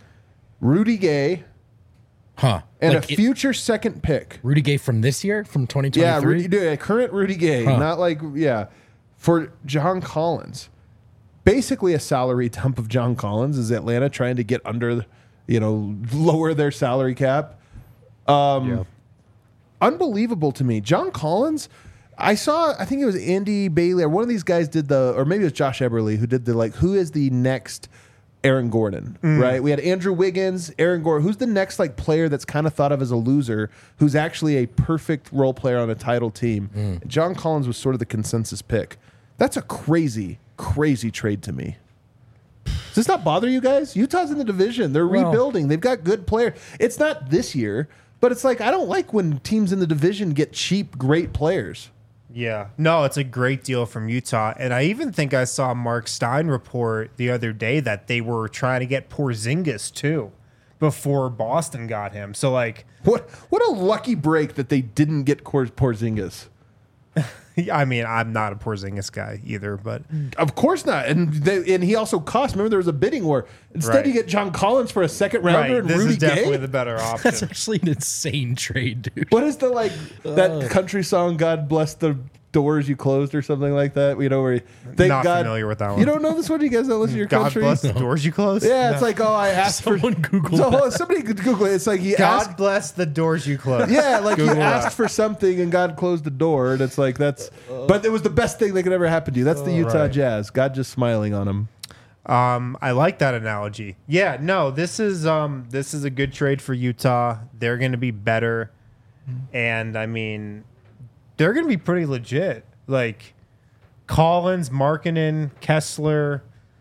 Rudy Gay Huh. and Like a it- future second pick. Rudy Gay from this year, from twenty Yeah, twenty-three? Rudy, dude, current Rudy Gay, Huh. not like yeah, for John Collins. Basically, a salary dump of John Collins is Atlanta trying to get under, you know, lower their salary cap. Um, Unbelievable to me, John Collins. I saw, I think it was Andy Bailey or one of these guys did the, or maybe it was Josh Eberle who did the like, who is the next Aaron Gordon, right? We had Andrew Wiggins, Aaron Gordon. Who's the next like player that's kind of thought of as a loser, who's actually a perfect role player on a title team? John Collins was sort of the consensus pick. That's a crazy, crazy trade to me. Does this not bother you guys? Utah's in the division. They're Well- rebuilding. They've got good players. It's not this year, but it's like I don't like when teams in the division get cheap, great players. Yeah. No, it's a great deal from Utah. And I even think I saw Mark Stein report the other day that they were trying to get Porzingis too before Boston got him. So like, What what a lucky break that they didn't get Cor- Porzingis. I mean, I'm not a Porzingis guy either, but Of course not. And they, and he also cost. Remember, there was a bidding war. Instead, Right. you get John Collins for a second rounder right, and this Rudy is definitely Gay. the better option. That's actually an insane trade, dude. What is the like that country song? God bless the doors you closed or something like that. You know, where you, thank Not God, familiar with that one. You don't know this one? You guys don't listen to your God country? bless the doors you closed. Yeah, it's like, oh, I asked Someone for Google so, that. somebody could Google it. It's like you God asked. bless the doors you closed. Yeah, like you Google asked that. for something and God closed the door, and it's like that's. But it was the best thing that could ever happen to you. That's the Utah right. Jazz. God just smiling on them. Um, I like that analogy. Yeah, no, this is um, this is a good trade for Utah. They're going to be better, and I mean, they're going to be pretty legit. Like Collins, Markkanen, Kessler,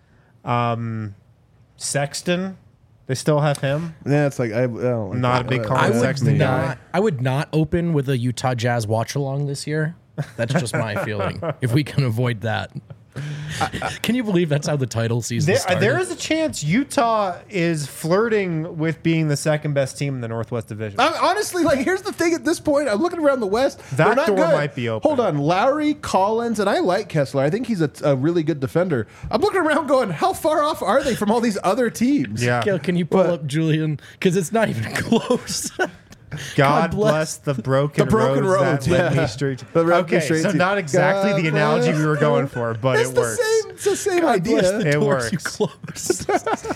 um, Sexton. They still have him. Yeah, it's like I, I don't like Not that. a big Uh, Colin I would Sexton guy. not. I would not open with a Utah Jazz watch along this year. That's just my feeling. If we can avoid that, can you believe that's how the title season There, started? there is a chance Utah is flirting with being the second best team in the Northwest Division. I'm, honestly, like, here's the thing. At this point, I'm looking around the West. That They're not door good. might be open. Hold on, Lowry, Collins, and I like Kessler. I think he's a, a really good defender. I'm looking around, going, how far off are they from all these other teams? Yeah. Gail, can you pull What? up Julian? Because it's not even close. God, God bless bless the broken, The broken roads, roads, that led yeah. me straight. The road Okay, straight so to- not exactly God the analogy we were bless going the- for, but It's it the works. same. It's the same God bless idea. the It doors you works.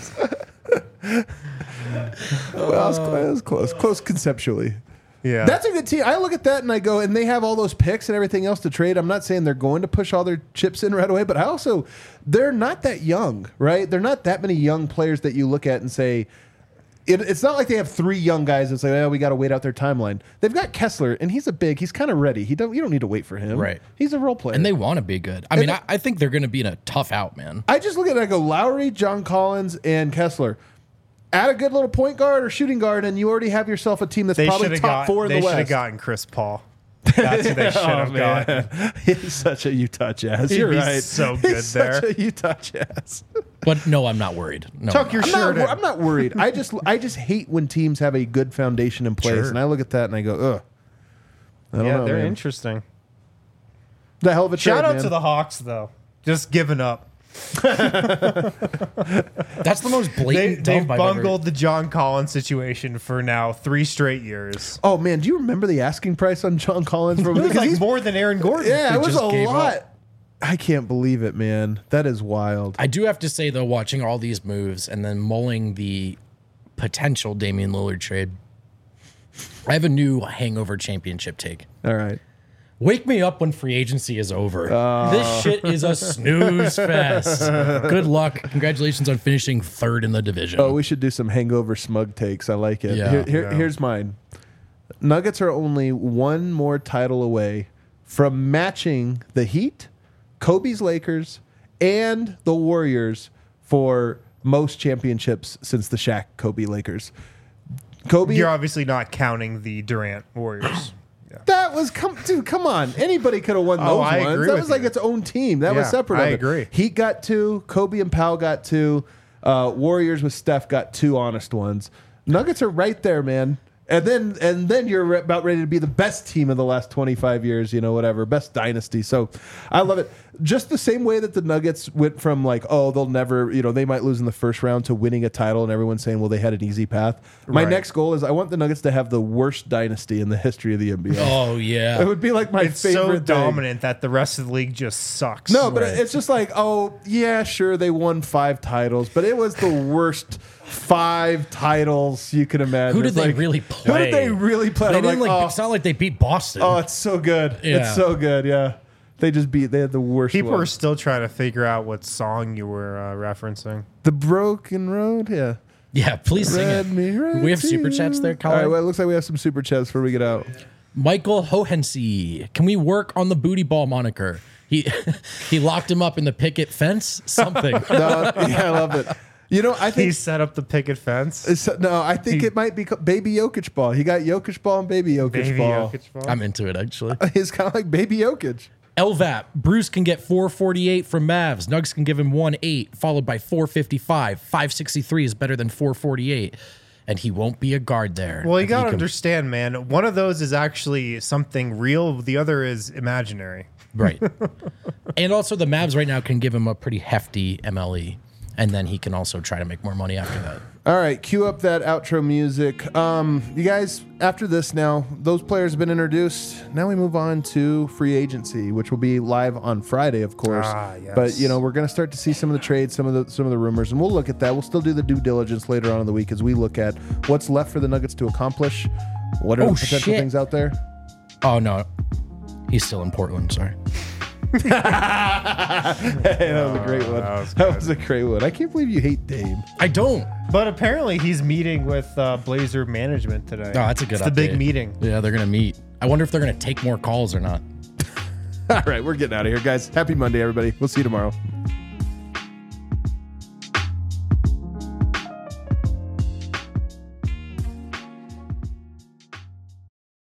closed. Well, I was, I was close, close conceptually. Yeah, That's a good team. I look at that and I go, and they have all those picks and everything else to trade. I'm not saying they're going to push all their chips in right away, but I also, they're not that young, right? They're not that many young players that you look at and say, it, it's not like they have three young guys that's like, oh, we got to wait out their timeline. They've got Kessler, and he's a big, he's kind of ready. He don't, you don't need to wait for him. Right. He's a role player. And they want to be good. I And mean, they- I, I think they're going to be in a tough out, man. I just look at it and I go, Lowry, John Collins, and Kessler. Add a good little point guard or shooting guard, and you already have yourself a team that's they probably should have top got. four in They the should have West. gotten Chris Paul. That's who they should have Oh, gotten. man. He's such a Utah Jazz. He'd You're be right. so He's good such there. a Utah Jazz. But no, I'm not worried. No, Tuck I'm your not. I'm not, shirt wor- in. I'm not worried. I just I just hate when teams have a good foundation in place, Sure. and I look at that and I go, ugh. I don't Yeah, know, they're man. interesting. The hell of a Shout trade, out man. to the Hawks though, just giving up. That's the most They blatant they've dump I've ever- bungled the John Collins situation for now three straight years. Oh man, do you remember the asking price on John Collins? For, It was because like he's- more than Aaron Gordon. yeah, They it was just a gave up. lot. I can't believe it, man. That is wild. I do have to say, though, watching all these moves and then mulling the potential Damian Lillard trade, I have a new hangover championship take. All right. Wake me up when free agency is over. Oh. This shit is a snooze fest. Good luck. Congratulations on finishing third in the division. Oh, we should do some hangover smug takes. I like it. Yeah. Here, here- Yeah. Here's mine. Nuggets are only one more title away from matching the Heat, Kobe's Lakers, and the Warriors for most championships since the Shaq Kobe Lakers. Kobe, You're obviously not counting the Durant Warriors. Yeah. that was come, dude. Come on, anybody could have won those Oh, I ones. agree That with was like you. its own team. That was Yeah, separate. I of it. agree. Heat got two. Kobe and Powell got two. Uh, Warriors with Steph got two honest ones. Nuggets are right there, man. And then and then you're re- about ready to be the best team of the last twenty-five years, you know, whatever, best dynasty. So I love it. Just the same way that the Nuggets went from like, oh, they'll never, you know, they might lose in the first round to winning a title and everyone's saying, well, they had an easy path. My Right. next goal is I want the Nuggets to have the worst dynasty in the history of the N B A. Oh, It yeah. would be like my It's favorite so thing. dominant that the rest of the league just sucks. No, but Right. it's just like, oh, yeah, sure, they won five titles, but it was the worst five titles you can imagine. Who did It's they like, really Who play? did they really play? They I'm didn't like, like, oh, It's not like they beat Boston. oh, it's so good. Yeah. It's so good, yeah. They just beat, they had the worst People one. are still trying to figure out what song you were uh, referencing. The Broken Road, yeah. yeah, please sing Read it. me right We have to super you. chats there, All Colin. right, well, it looks like we have some super chats before we get out. Michael Hohensee. Can we work on the booty ball moniker? He he locked him up in the picket fence. Something. No, yeah, I love it. You know, I He think set up the picket fence. it's, no, I think He- it might be co- Baby Jokic ball. He got Jokic ball and Baby Jokic Baby ball. Jokic ball. I'm into it actually. It's kind of like Baby Jokic. L V A P. Bruce can get four forty-eight from Mavs. Nugs can give him one eight, followed by four fifty-five. five sixty-three is better than four forty-eight, and he won't be a guard there. Well, you He got to can- understand, man. One of those is actually something real. The other is imaginary. Right. And also, the Mavs right now can give him a pretty hefty M L E. and then he can also try to make more money after that. All right, cue up that outro music. Um, you guys, after this now, those players have been introduced. Now we move on to free agency, which will be live on Friday, of course. Ah, yes. But you know, we're going to start to see some of the trades, some of the some of the rumors, and we'll look at that. We'll still do the due diligence later on in the week as we look at what's left for the Nuggets to accomplish. What are Oh, the potential shit. things out there? Oh no, he's still in Portland. Sorry. Hey, that was a great one. that was That was a great one. I can't believe you hate Dame. I don't. But apparently he's meeting with uh, Blazer management today. Oh, that's a good It's the big update. meeting. Yeah, they're gonna meet. I wonder if they're gonna take more calls or not. All right, we're getting out of here, guys. Happy Monday, everybody. We'll see you tomorrow.